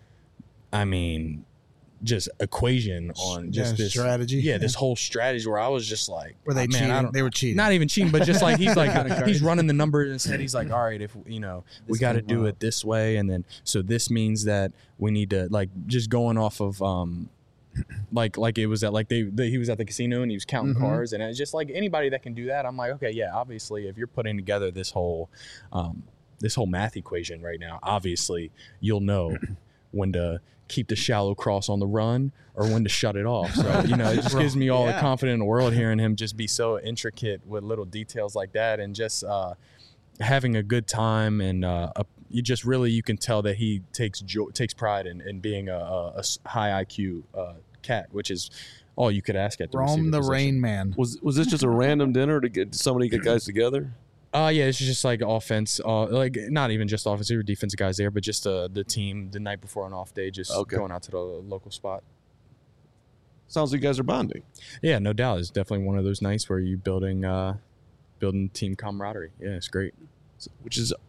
just equation on just this strategy. Yeah, this whole strategy where I was just like, were they cheating? They were cheating. Not even cheating, but just like he's like he's running the numbers instead. He's like, all right, if we got to do it this way, and then so this means that we need to just going off of like it was at he was at the casino and he was counting cars, and it's just like anybody that can do that. I'm like, okay, yeah, obviously if you're putting together this whole math equation right now, obviously you'll know when to keep the shallow cross on the run or when to shut it off. So, it just gives me all the confidence in the world hearing him just be so intricate with little details like that, and just having a good time. And you can tell that he takes pride in being a high IQ cat, which is all you could ask at the Rome the position. Rain Man. Was this just a random dinner to get somebody to get guys together? Yeah, it's just like offense, like not even just offensive or defensive guys there, but just the team the night before an off day, just going out to the local spot. Sounds like you guys are bonding. Yeah, no doubt. It's definitely one of those nights where you're building team camaraderie. Yeah, it's great. Which is,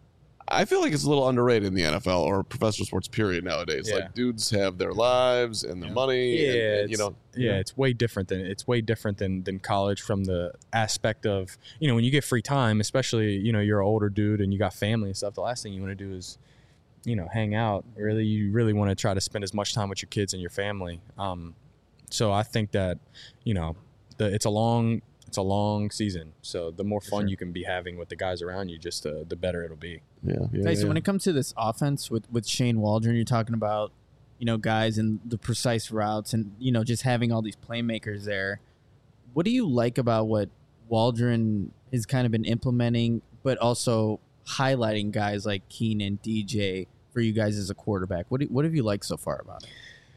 I feel like it's a little underrated in the NFL or professional sports period nowadays. Yeah. Like dudes have their lives and their money. And, it's way different than college from the aspect of, when you get free time, especially, you're an older dude and you got family and stuff. The last thing you want to do is, hang out. You really want to try to spend as much time with your kids and your family. So I think that, it's a long season. So the more fun you can be having with the guys around you, just the better it'll be. So when it comes to this offense with Shane Waldron, you're talking about, guys and the precise routes and, just having all these playmakers there. What do you like about what Waldron has kind of been implementing, but also highlighting guys like Keenan, DJ for you guys as a quarterback? What have you liked so far about it?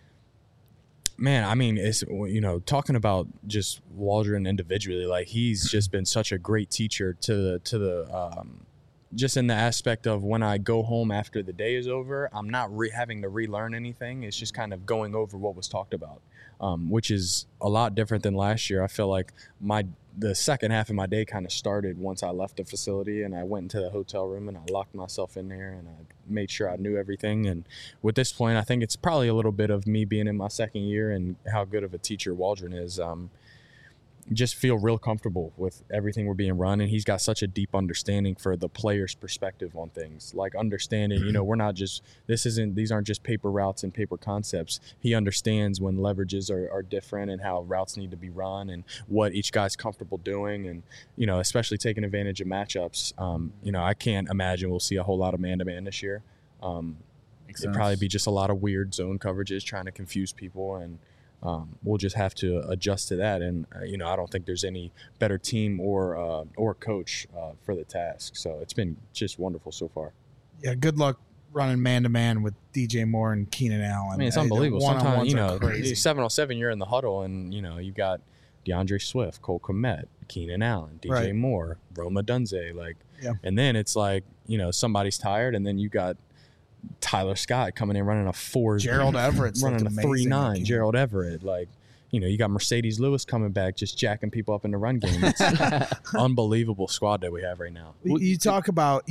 Man, I mean, it's, talking about just Waldron individually, like he's just been such a great teacher to the just in the aspect of when I go home after the day is over, I'm not having to relearn anything. It's just kind of going over what was talked about, which is a lot different than last year. I feel like the second half of my day kind of started once I left the facility and I went into the hotel room and I locked myself in there and I made sure I knew everything. And with this point, I think it's probably a little bit of me being in my second year and how good of a teacher Waldron is. Just feel real comfortable with everything we're being run, and he's got such a deep understanding for the player's perspective on things, like understanding, we're not just, these aren't just paper routes and paper concepts. He understands when leverages are different and how routes need to be run and what each guy's comfortable doing, and especially taking advantage of matchups. I can't imagine we'll see a whole lot of man-to-man this year. It'd probably be just a lot of weird zone coverages trying to confuse people, and we'll just have to adjust to that. And, I don't think there's any better team or coach for the task. So it's been just wonderful so far. Yeah, good luck running man-to-man with DJ Moore and Keenan Allen. I mean, it's unbelievable. Sometimes, 7-on-7, you're in the huddle and, you got DeAndre Swift, Cole Kmet, Keenan Allen, DJ Moore, Rome Odunze. And then it's like, somebody's tired and then you got Tyler Scott coming in running a 4. Gerald Everett's running a 3.9. Gerald Everett, you got Mercedes Lewis coming back, just jacking people up in the run game. It's an unbelievable squad that we have right now. You talk about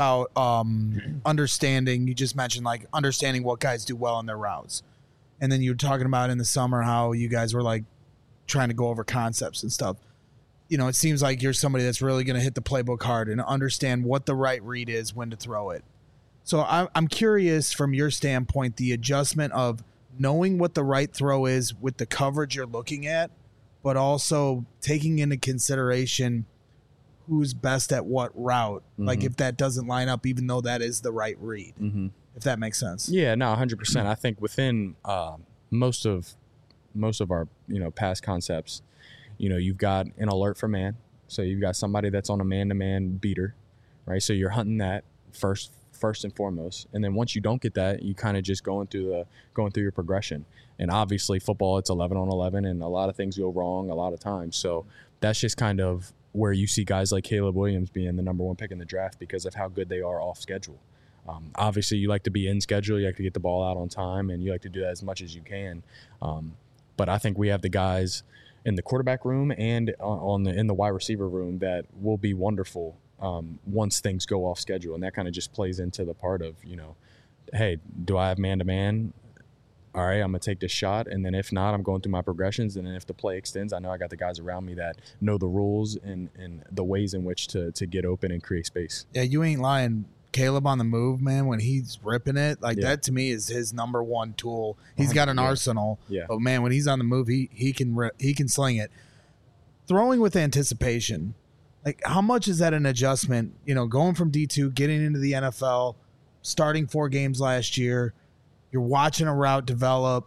understanding. You just mentioned understanding what guys do well in their routes, and then you were talking about in the summer how you guys were trying to go over concepts and stuff. It seems like you're somebody that's really going to hit the playbook hard and understand what the right read is, when to throw it. So I'm curious from your standpoint, the adjustment of knowing what the right throw is with the coverage you're looking at, but also taking into consideration who's best at what route. Mm-hmm. If that doesn't line up, even though that is the right read, if that makes sense. Yeah, no, 100%. I think within most of our, past concepts, you've got an alert for man. So you've got somebody that's on a man-to-man beater, right? So you're hunting that first and foremost, and then once you don't get that, you kind of just going through your progression. And obviously football, it's 11-on-11 and a lot of things go wrong a lot of times, so that's just kind of where you see guys like Caleb Williams being the number 1 pick in the draft because of how good they are off schedule. Obviously you like to be in schedule, you like to get the ball out on time, and you like to do that as much as you can, but I think we have the guys in the quarterback room and in the wide receiver room that will be wonderful once things go off schedule. And that kind of just plays into the part of, hey, do I have man-to-man? All right, I'm going to take this shot. And then if not, I'm going through my progressions. And then if the play extends, I know I got the guys around me that know the rules and the ways in which to get open and create space. Yeah, you ain't lying. Caleb on the move, man, when he's ripping it, that to me is his number 1 tool. He's got an arsenal. Yeah. But, man, when he's on the move, he can sling it. Throwing with anticipation. How much is that an adjustment, going from D2, getting into the NFL, starting 4 games last year, you're watching a route develop,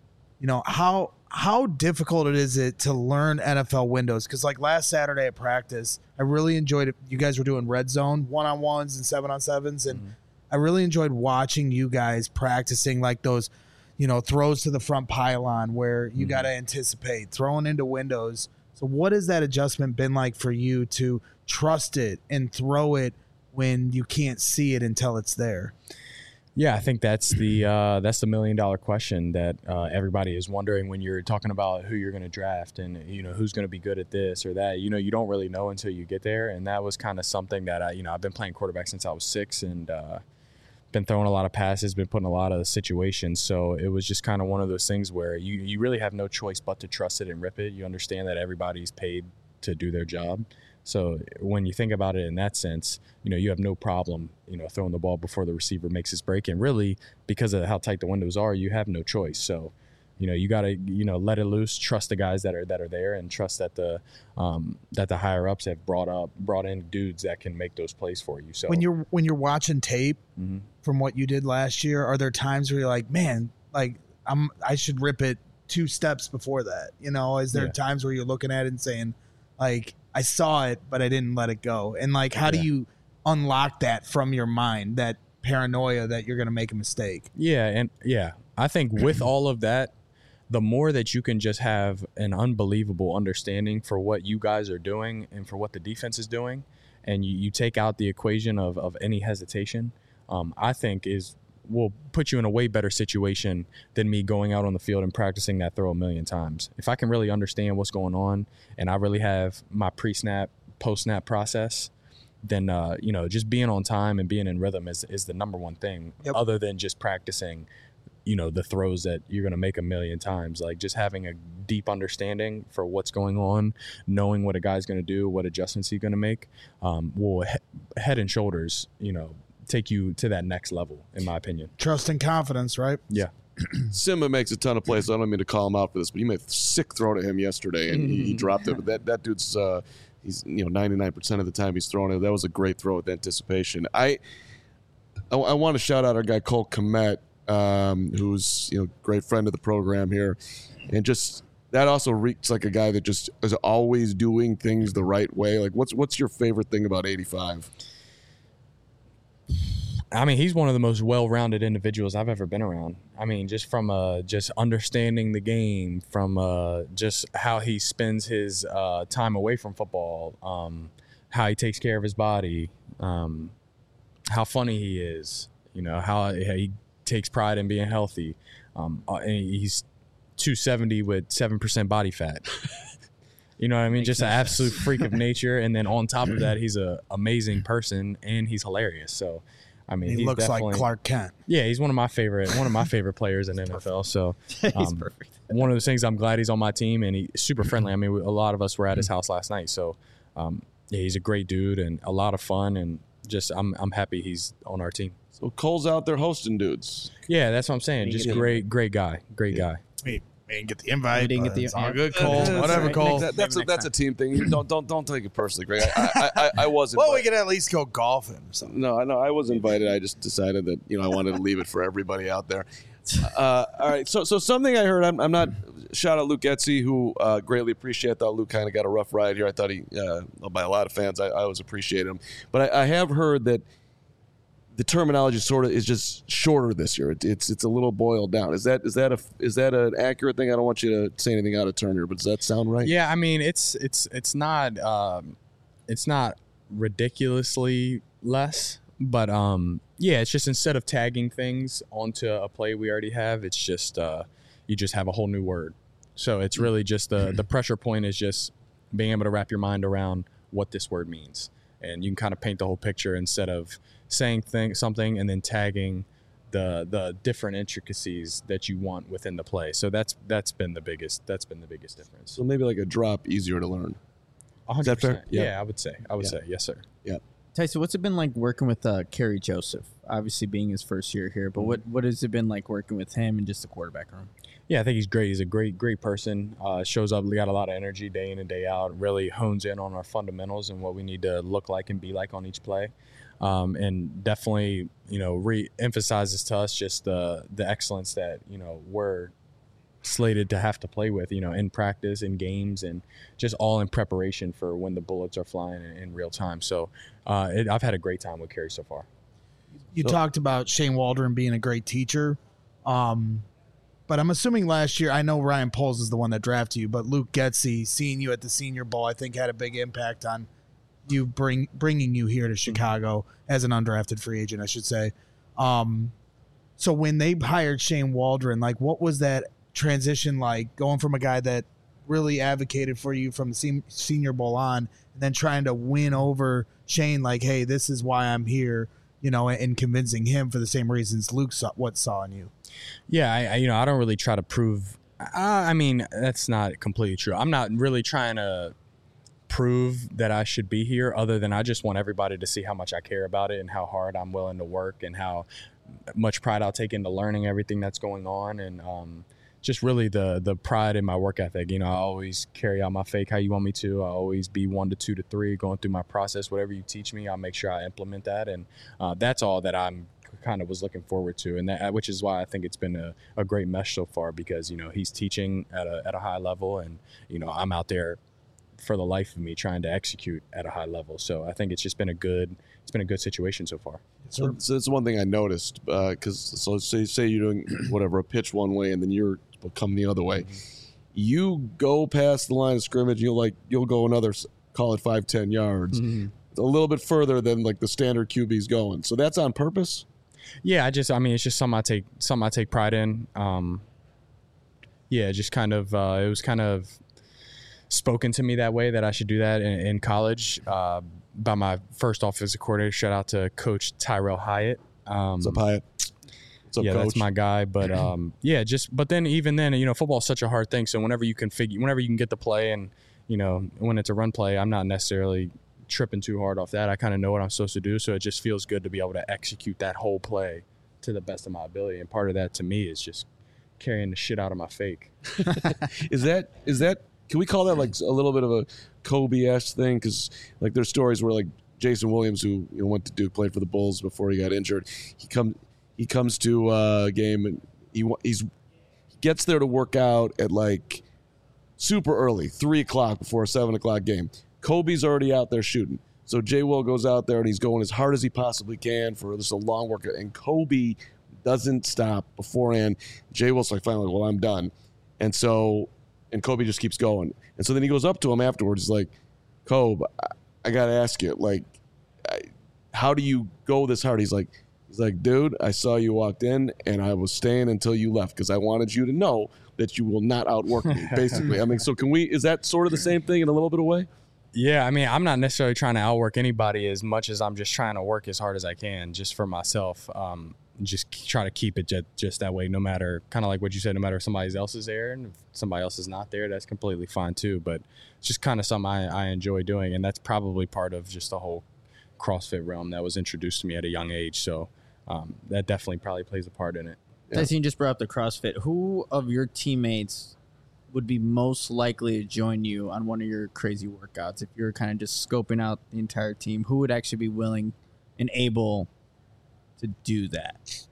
how difficult is it to learn NFL windows? Because last Saturday at practice, I really enjoyed it. You guys were doing red zone 1-on-1s and 7-on-7s, and I really enjoyed watching you guys practicing those, throws to the front pylon where you got to anticipate, throwing into windows. So what has that adjustment been like for you to trust it and throw it when you can't see it until it's there? Yeah, I think that's the $1 million question that everybody is wondering when you're talking about who you're going to draft and who's going to be good at this or that. You don't really know until you get there, and that was kind of something that I've been playing quarterback since I was 6 and been throwing a lot of passes, been put in a lot of situations. So it was just kind of one of those things where you really have no choice but to trust it and rip it. You understand that everybody's paid to do their job. So when you think about it in that sense, you have no problem, throwing the ball before the receiver makes his break. And really, because of how tight the windows are, you have no choice. So, you got to, let it loose, trust the guys that are there, and trust that the higher ups have brought in dudes that can make those plays for you. So when you're watching tape from what you did last year, are there times where you're like, man, like I should rip it 2 steps before that? Is there times where you're looking at it and saying, like, I saw it, but I didn't let it go? And like, how do you unlock that from your mind, that paranoia that you're going to make a mistake? I think with all of that, the more that you can just have an unbelievable understanding for what you guys are doing and for what the defense is doing, and you take out the equation of any hesitation, I think will put you in a way better situation than me going out on the field and practicing that throw 1,000,000 times. If I can really understand what's going on and I really have my pre-snap, post-snap process, then, just being on time and being in rhythm is the number one thing, other than just practicing, the throws that you're going to make 1,000,000 times. Like, just having a deep understanding for what's going on, knowing what a guy's going to do, what adjustments he's going to make, will head and shoulders, take you to that next level, in my opinion. Trust and confidence, right? Yeah. Simba makes a ton of plays. I don't mean to call him out for this, but he made a sick throw to him yesterday, and he dropped it. But that dude's he's 99% of the time he's throwing it. That was a great throw with anticipation. I want to shout out our guy Cole Kmet, who's great friend of the program here, and just that also reeks like a guy that just is always doing things the right way. Like, what's your favorite thing about 85? I mean, he's one of the most well-rounded individuals I've ever been around. I mean, just from just understanding the game, from just how he spends his time away from football, how he takes care of his body, how funny he is, how he takes pride in being healthy. And he's 270 with 7% body fat. You know what I mean? Just an absolute freak of nature. And then on top of that, he's an amazing person and he's hilarious. So, I mean, he looks like Clark Kent. Yeah, he's one of my favorite players in NFL. So he's perfect. One of those things, I'm glad he's on my team, and he's super friendly. I mean, a lot of us were at his house last night. So, he's a great dude and a lot of fun, and just I'm happy he's on our team. So Cole's out there hosting dudes. Yeah, that's what I'm saying. Just great guy. Guy. We didn't get the invite. We didn't get the it's all good, Cole. Whatever, Cole. That's a team thing. Don't take it personally, Greg. I wasn't. Well, we could at least go golfing or something. No, I was invited. I just decided that I wanted to leave it for everybody out there. All right. So something I heard. I'm not. Shout out Luke Getsy, who greatly appreciate. I thought Luke kind of got a rough ride here. I thought he, by a lot of fans, I always appreciate him. But I have heard that the terminology sort of is just shorter this year. It's a little boiled down. Is that an accurate thing? I don't want you to say anything out of turn here, but does that sound right? Yeah, I mean it's not ridiculously less, but yeah, it's just instead of tagging things onto a play we already have, it's just you just have a whole new word. So it's really just the pressure point is just being able to wrap your mind around what this word means, and you can kind of paint the whole picture instead of saying something and then tagging the different intricacies that you want within the play. So that's been the biggest difference. So maybe like a drop easier to learn. 100%. Yeah, I would say yes, sir. Yeah. Tyson, what's it been like working with Kerry Joseph? Obviously being his first year here, but what has it been like working with him and just the quarterback room? Yeah, I think he's great. He's a great person. Shows up, got a lot of energy day in and day out. Really hones in on our fundamentals and what we need to look like and be like on each play. And definitely, re-emphasizes to us just the excellence that, we're slated to have to play with, in practice, in games, and just all in preparation for when the bullets are flying in real time. So I've had a great time with Kerry so far. You talked about Shane Waldron being a great teacher. But I'm assuming last year, I know Ryan Poles is the one that drafted you, but Luke Getsy, seeing you at the Senior Bowl, I think had a big impact on you bringing you here to Chicago as an undrafted free agent, I should say. So when they hired Shane Waldron, like what was that transition like, going from a guy that really advocated for you from the Senior Bowl on, and then trying to win over Shane, like, hey, this is why I'm here, and convincing him for the same reasons Luke saw in you? Yeah, I don't really try to prove. I mean, that's not completely true. I'm not really trying to prove that I should be here, other than I just want everybody to see how much I care about it and how hard I'm willing to work and how much pride I'll take into learning everything that's going on, and just really the pride in my work ethic. I always carry out my fake how you want me to. I always be 1 to 2 to 3 going through my process. Whatever you teach me, I'll make sure I implement that, and that's all that I'm kind of was looking forward to, and that, which is why I think it's been a great mesh so far, because he's teaching at a high level, and I'm out there for the life of me trying to execute at a high level. So I think it's just been a good situation so far. So it's one thing I noticed, because say you're doing whatever, a pitch one way and then you're coming the other way. Mm-hmm. You go past the line of scrimmage, you'll go another, call it 5-10 yards, mm-hmm. a little bit further than like the standard QB's going. So that's on purpose? Yeah, it's just something I take pride in. Just kind of it was kind of spoken to me that way, that I should do that in college by my first offensive coordinator. Shout out to Coach Tyrell Hyatt. What's up, Hyatt? What's up, yeah, Coach? That's my guy. But but then even then, football is such a hard thing. So whenever you can get the play, and when it's a run play, I'm not necessarily tripping too hard off that. I kind of know what I'm supposed to do, so it just feels good to be able to execute that whole play to the best of my ability. And part of that to me is just carrying the shit out of my fake. Is that can we call that like a little bit of a Kobe-esque thing? Because like there's stories where like Jason Williams, who went to Duke, played for the Bulls before he got injured. He comes to a game and he gets there to work out at like super early, 3 o'clock before a 7 o'clock game. Kobe's already out there shooting. So J. Will goes out there and he's going as hard as he possibly can for this a long workout. And Kobe doesn't stop beforehand. J. Will's like, finally, well, I'm done. And Kobe just keeps going. And so then he goes up to him afterwards. He's like, Kobe, I got to ask you, like, how do you go this hard? He's like, dude, I saw you walked in and I was staying until you left because I wanted you to know that you will not outwork me, basically. I mean, so is that sort of the same thing in a little bit of way? Yeah, I mean, I'm not necessarily trying to outwork anybody as much as I'm just trying to work as hard as I can just for myself. Just try to keep it just that way, no matter, kind of like what you said, no matter if somebody else is there, and if somebody else is not there, that's completely fine too. But it's just kind of something I enjoy doing, and that's probably part of just the whole CrossFit realm that was introduced to me at a young age. So that definitely probably plays a part in it. Yeah. Tyson, you just brought up the CrossFit. Who of your teammates would be most likely to join you on one of your crazy workouts if you're kind of just scoping out the entire team? Who would actually be willing and able to do that?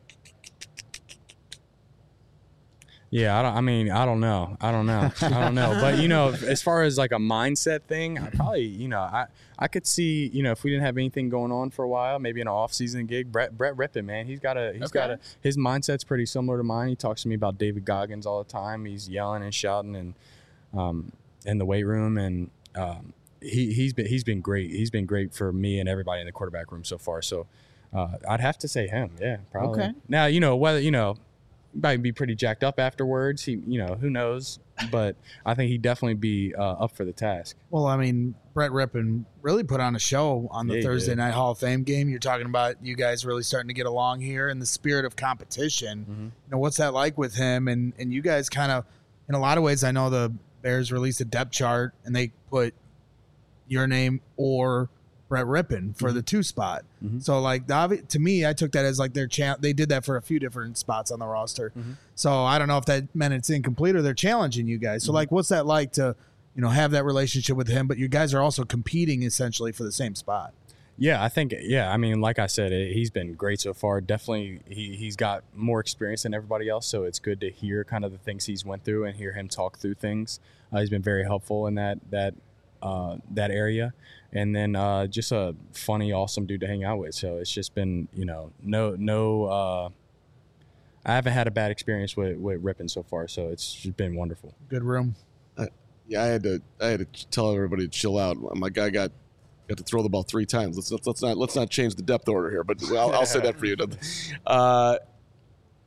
Yeah, I don't know. But, as far as like a mindset thing, I probably, I could see, if we didn't have anything going on for a while, maybe an off-season gig, Brett Rippon, man, his mindset's pretty similar to mine. He talks to me about David Goggins all the time. He's yelling and shouting and in the weight room, and he's been great. He's been great for me and everybody in the quarterback room so far. So I'd have to say him. Yeah, probably. Okay. Now, whether, might be pretty jacked up afterwards. He, who knows? But I think he'd definitely be up for the task. Well, I mean, Brett Rippon really put on a show on the Thursday Night Hall of Fame game. You're talking about you guys really starting to get along here in the spirit of competition. Mm-hmm. What's that like with him? And you guys kind of, in a lot of ways, I know the Bears released a depth chart and they put your name or Brett Rippon for the 2 spot. Mm-hmm. So like to me, I took that as like their they did that for a few different spots on the roster. Mm-hmm. So I don't know if that meant it's incomplete or they're challenging you guys. So like, what's that like to, have that relationship with him, but you guys are also competing essentially for the same spot? Yeah, I think, I mean, like I said, he's been great so far. Definitely he's got more experience than everybody else. So it's good to hear kind of the things he's went through and hear him talk through things. He's been very helpful in that area. And then just a funny, awesome dude to hang out with. So it's just been, I haven't had a bad experience with Rippon so far. So it's just been wonderful. Good room. I had to tell everybody to chill out. My guy got to throw the ball 3 times. Let's not change the depth order here, but I'll say that for you.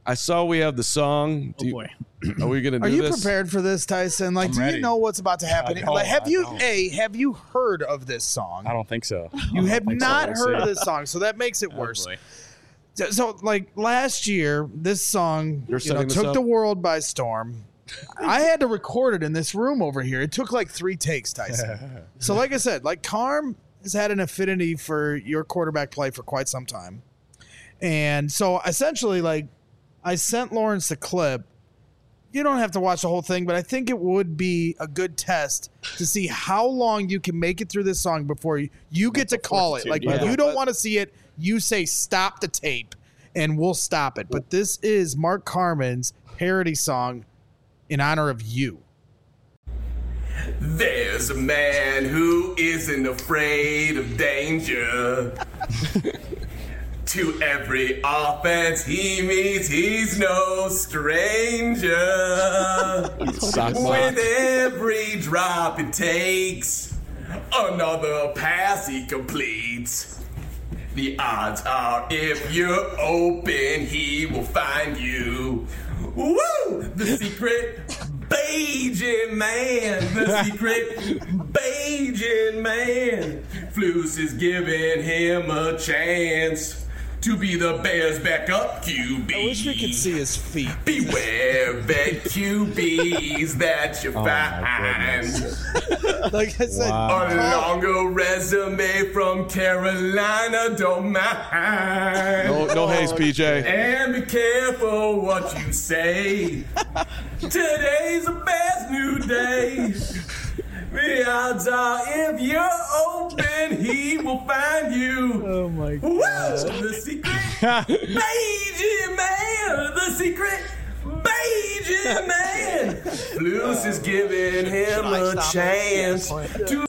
I saw we have the song. Boy. Are we gonna do this? Are you prepared for this, Tyson? Like, do you know what's about to happen? Like, have you heard of this song? I don't think so. You have not heard of this song, so that makes it worse. So, like last year, this song took the world by storm. I had to record it in this room over here. It took like 3 takes, Tyson. So, like I said, like Carm has had an affinity for your quarterback play for quite some time. And so, essentially, like, I sent Lawrence the clip. You don't have to watch the whole thing, but I think it would be a good test to see how long you can make it through this song before you get to call it. Like, when you don't want to see it, you say stop the tape, and we'll stop it. But this is Mark Carman's parody song in honor of you. There's a man who isn't afraid of danger. To every offense he meets, he's no stranger. With every drop it takes, another pass he completes. The odds are if you're open, he will find you. Woo! The secret Bajan man. The secret Bajan man. Flus is giving him a chance to be the Bears' backup QB. I wish we could see his feet. Beware vet QBs that you find. Like I said, a longer resume from Carolina, don't mind. No haze, PJ. And be careful what you say. Today's the best new day. The odds are if you're open, he will find you. Oh my God. Woo! The secret Bajan man. The secret Bajan man. Flus is giving him a chance to.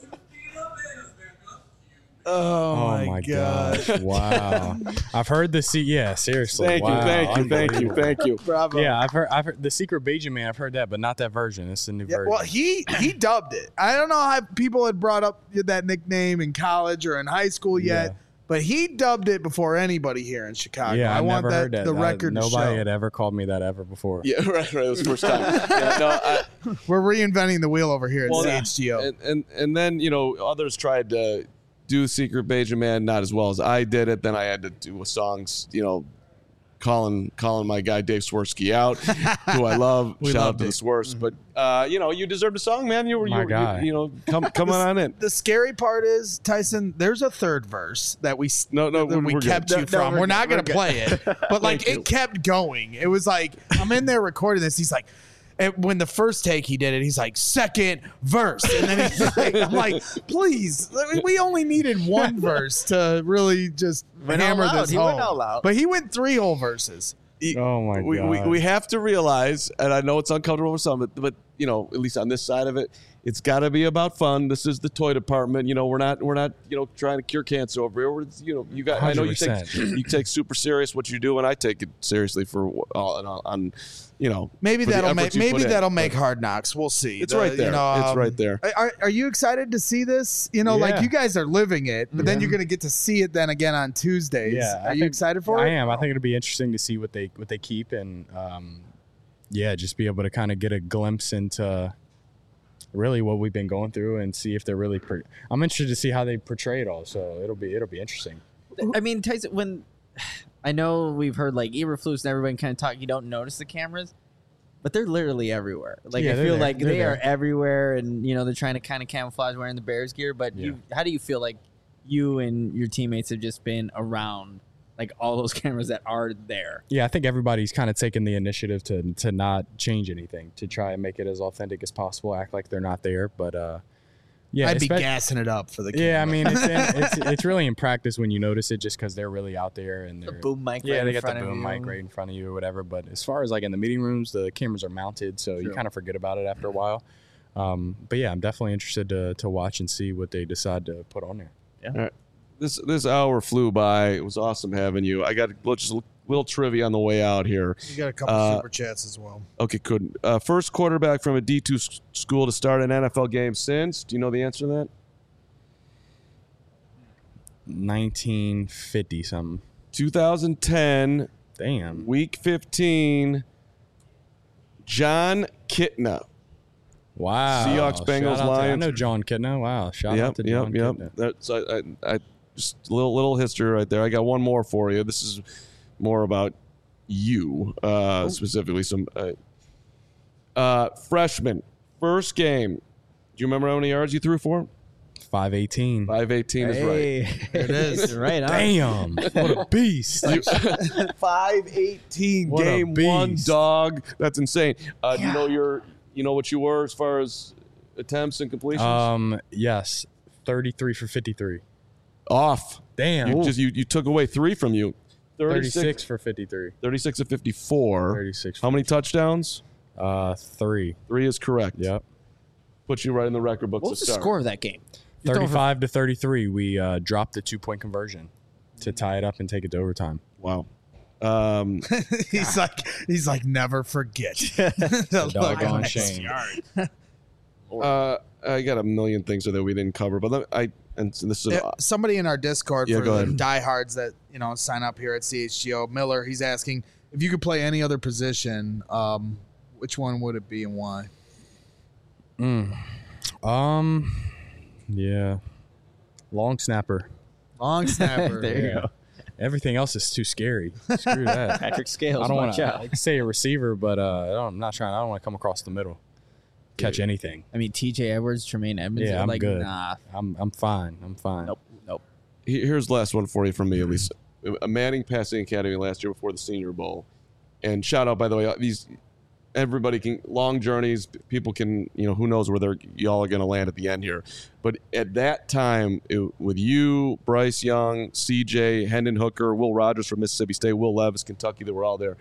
Oh my gosh. Wow. I've heard the seriously. Thank you. Bravo. Yeah, I've heard the secret Bajan man. I've heard that, but not that version. It's a new version. Well, he dubbed it. I don't know how people had brought up that nickname in college or in high school yet, but he dubbed it before anybody here in Chicago. Yeah, I want never heard that. The record to show. Nobody had ever called me that ever before. Yeah, right. It was the first time. We're reinventing the wheel over here at CHGO. And then, others tried to do Secret Bajan Man not as well as I did it. Then I had to do songs, calling my guy Dave Swirsky out, who I love. Shout out to the Swirst. But you deserved a song, man. You were come on in. The scary part is, Tyson, there's a third verse that we kept good. you from. We're not going to play it, but like it kept going. It was like I'm in there recording this. He's like. And when the first take he did it, he's like, second verse. And then he's like, I'm like, please, we only needed one verse to really just hammer this home. Went all out. But he went 3 whole verses. Oh, my God. We have to realize, and I know it's uncomfortable for some, but at least on this side of it, it's got to be about fun. This is the toy department. We're not trying to cure cancer over here. I know you take super serious what you do, and I take it seriously for on. Maybe that'll make Hard Knocks. We'll see. It's right there. It's right there. Are you excited to see this? Like you guys are living it, but then you're going to get to see it then again on Tuesdays. Yeah, are you excited for it? I am. I think it'll be interesting to see what they keep and just be able to kind of get a glimpse into really what we've been going through and see if they're really. I'm interested to see how they portray it all. So it'll be interesting. I mean, Tyson, when. I know we've heard like Eberflus and everybody kind of talk. You don't notice the cameras, but they're literally everywhere. Like I feel like they are everywhere, and they're trying to kind of camouflage wearing the Bears gear. But how do you feel like you and your teammates have just been around like all those cameras that are there? Yeah, I think everybody's kind of taken the initiative to not change anything, to try and make it as authentic as possible, act like they're not there. But I'd be gassing it up for the camera. Yeah, I mean, it's really in practice when you notice it, just because they're really out there and they're the boom mic. They got the boom mic right in front of you or whatever. But as far as like in the meeting rooms, the cameras are mounted, so you kind of forget about it after a while. But yeah, I'm definitely interested to watch and see what they decide to put on there. Yeah. All right. This hour flew by. It was awesome having you. I got just a little trivia on the way out here. You got a couple super chats as well. Okay, good. First quarterback from a D2 school to start an NFL game since. Do you know the answer to that? 1950 something. 2010. Damn. Week 15, Jon Kitna. Wow. Seahawks, Bengals, Lions. I know Jon Kitna. Wow. Shout out to Jon Kitna. That's I just a little history right there. I got one more for you. This is more about you, specifically. Some freshman, first game. Do you remember how many yards you threw for? 518. 518 is right. There it is. Right on. Damn. What a beast. 518 What a game beast. 1, dog. That's insane. Do you know what you were as far as attempts and completions? Yes. 33 for 53. Off. Damn. You took away 3 from you. 36 for 53. 36 of 54. 36. How many touchdowns? 3. 3 is correct. Yep. Put you right in the record books. What was the score of that game? 35 to 33. We dropped the 2-point conversion to tie it up and take it to overtime. Wow. He's like never forget. The doggone shame. I got a million things that we didn't cover, but this is somebody in our Discord for go the ahead. diehards that sign up here at CHGO. Miller, he's asking if you could play any other position, which one would it be and why? Yeah. Long snapper. Long snapper. There you go. Everything else is too scary. Screw that. Patrick Scales. I don't want watch to. out. I can say a receiver, but I'm not trying. I don't want to come across the middle, catch anything. I mean, T.J. Edwards, Tremaine Edmonds. Yeah, I'm like, good. Nah. I'm fine. I'm fine. Nope. Here's the last one for you from me, at least. A Manning Passing Academy last year before the Senior Bowl, and shout out, by the way, everybody can long journeys. People can, who knows where y'all are going to land at the end here. But at that time, with you, Bryce Young, CJ, Hendon Hooker, Will Rogers from Mississippi State, Will Levis, Kentucky, they were all there.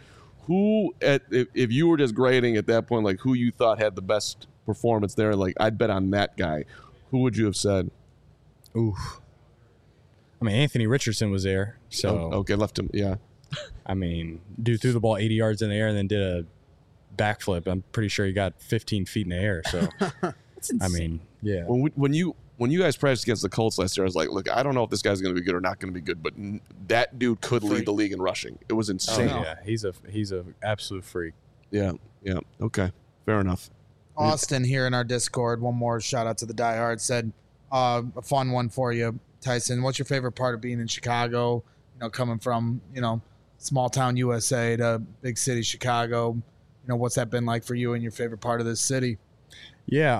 If you were just grading at that point, like who you thought had the best performance there, like I'd bet on that guy, who would you have said? Oof. I mean, Anthony Richardson was there, so okay, left him. Yeah. I mean, dude threw the ball 80 yards in the air and then did a backflip. I'm pretty sure he got 15 feet in the air. So, I mean, yeah. When you guys practiced against the Colts last year, I was like, look, I don't know if this guy's going to be good or not going to be good, but that dude could lead the league in rushing. It was insane. Oh, yeah, he's a absolute freak. Yeah. Okay, fair enough. Austin here in our Discord. One more shout out to the diehard. Said a fun one for you, Tyson. What's your favorite part of being in Chicago? Coming from small town USA to big city Chicago. What's that been like for you and your favorite part of this city? Yeah,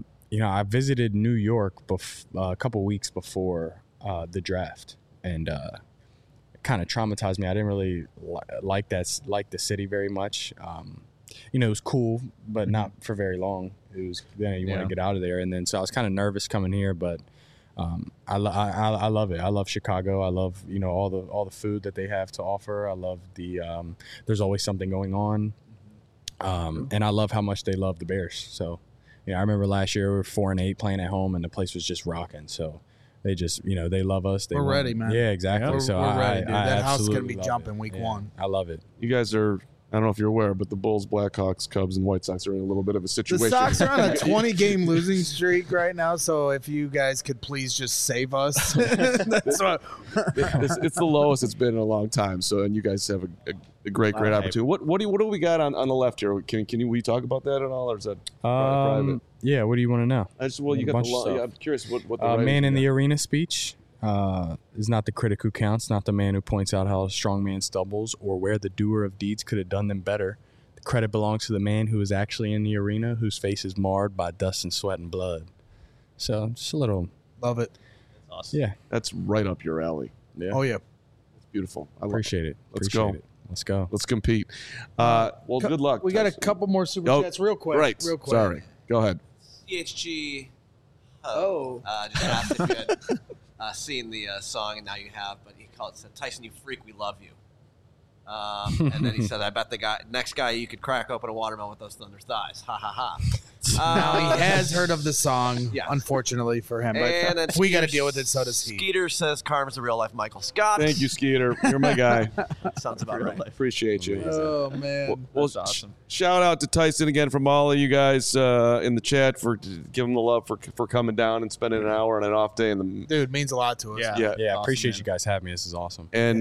I visited New York a couple weeks before the draft, and it kind of traumatized me. I didn't really like the city very much. It was cool, but not for very long. It was you want to get out of there, and then so I was kind of nervous coming here, but I love it. I love Chicago. I love all the food that they have to offer. I love the there's always something going on. And I love how much they love the Bears. So, I remember last year we were 4-8 playing at home, and the place was just rocking. So, they just, they love us. We're ready, man. Yeah, exactly. We're ready, dude. That house is going to be love jumping week 1. I love it. You guys are, I don't know if you're aware, but the Bulls, Blackhawks, Cubs, and White Sox are in a little bit of a situation. The Sox are on a 20-game losing streak right now, so if you guys could please just save us. That's what. It's the lowest it's been in a long time. So, and you guys have a great opportunity. What do we got on the left here? Can we talk about that at all, or is that private? Yeah. What do you want to know? You got the law. Yeah, I'm curious what the man in the arena speech is not the critic who counts, not the man who points out how a strong man stumbles or where the doer of deeds could have done them better. The credit belongs to the man who is actually in the arena, whose face is marred by dust and sweat and blood. So just a little. Love it. That's awesome. Yeah. That's right up your alley. Yeah. Oh, yeah. It's beautiful. I Appreciate it. Let's Appreciate go. it. Let's go. Let's compete. Well, good luck. We got a Tyson. couple more super chats real quick. Right. Real quick. Sorry. Go ahead. CHG. Just asked if you had seen the song, and now you have. But he said, "Tyson, you freak, we love you." And then he said, "I bet the next guy you could crack open a watermelon with those thunder thighs." Ha ha ha. Now he has heard of the song, Yeah. unfortunately for him. And But then we got to deal with it. So does he. Skeeter says Carmen's a real life Michael Scott. Thank you, Skeeter. You're my guy. Sounds about right. Appreciate you. Oh man, Well, That's awesome. Shout out to Tyson again from all of you guys in the chat for giving the love for coming down and spending an hour on an off day. dude, means a lot to us. Yeah. Awesome, Appreciate man. you guys having me. This is awesome. And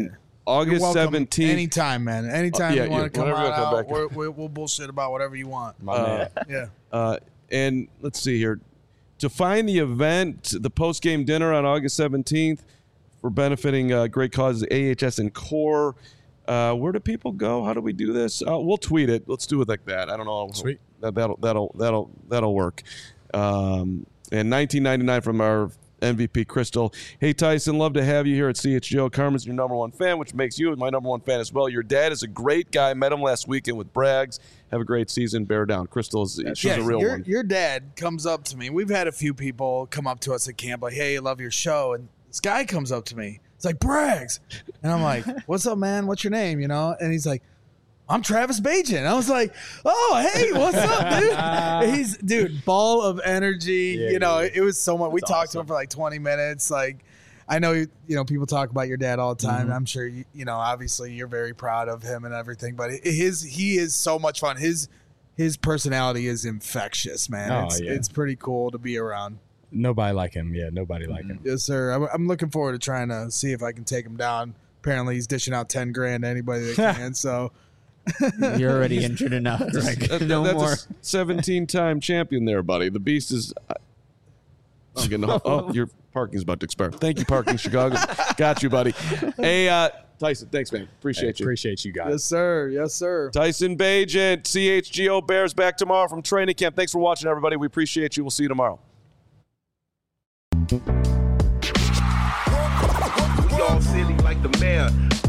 August 17th. Anytime, man. Anytime you want to come out, we'll bullshit about whatever you want. Yeah. And let's see here. To find the event, the post-game dinner on August 17th for benefiting great causes, AHS and CORE. Where do people go? How do we do this? We'll tweet it. Let's do it like that. I don't know. Sweet. That'll work. And $19.99 from our MVP Crystal. Hey Tyson, love to have you here at CHGO. Carmen's your number one fan, which makes you my number one fan as well. Your dad is a great guy. Met him last weekend with Braggs. Have a great season. Bear down. Crystal she's a real one. Your dad comes up to me. We've had a few people come up to us at camp like, "Hey, I love your show." And this guy comes up to me. It's like, "Braggs," and I'm like, "What's up, man? What's your name?" You know? And he's like, "I'm Travis Bagent." I was like, "Oh, hey, what's up, dude?" He's ball of energy. Yeah, it was so much. We talked to him for like 20 minutes. Like, I know people talk about your dad all the time. Mm-hmm. I'm sure obviously you're very proud of him and everything. But he is so much fun. His personality is infectious, man. It's pretty cool to be around. Nobody like him. Yeah, nobody like him. Yes, sir. I'm looking forward to trying to see if I can take him down. Apparently, he's dishing out $10,000 to anybody that can. So. You're already injured enough. That's more. A 17-time champion there, buddy. The beast is. I'm getting. Your parking's about to expire. Thank you, Parking Chicago. Got you, buddy. Hey, Tyson. Thanks, man. Appreciate you. Appreciate you guys. Yes, sir. Yes, sir. Tyson Bagent, CHGO Bears back tomorrow from training camp. Thanks for watching, everybody. We appreciate you. We'll see you tomorrow. We all silly like the mayor.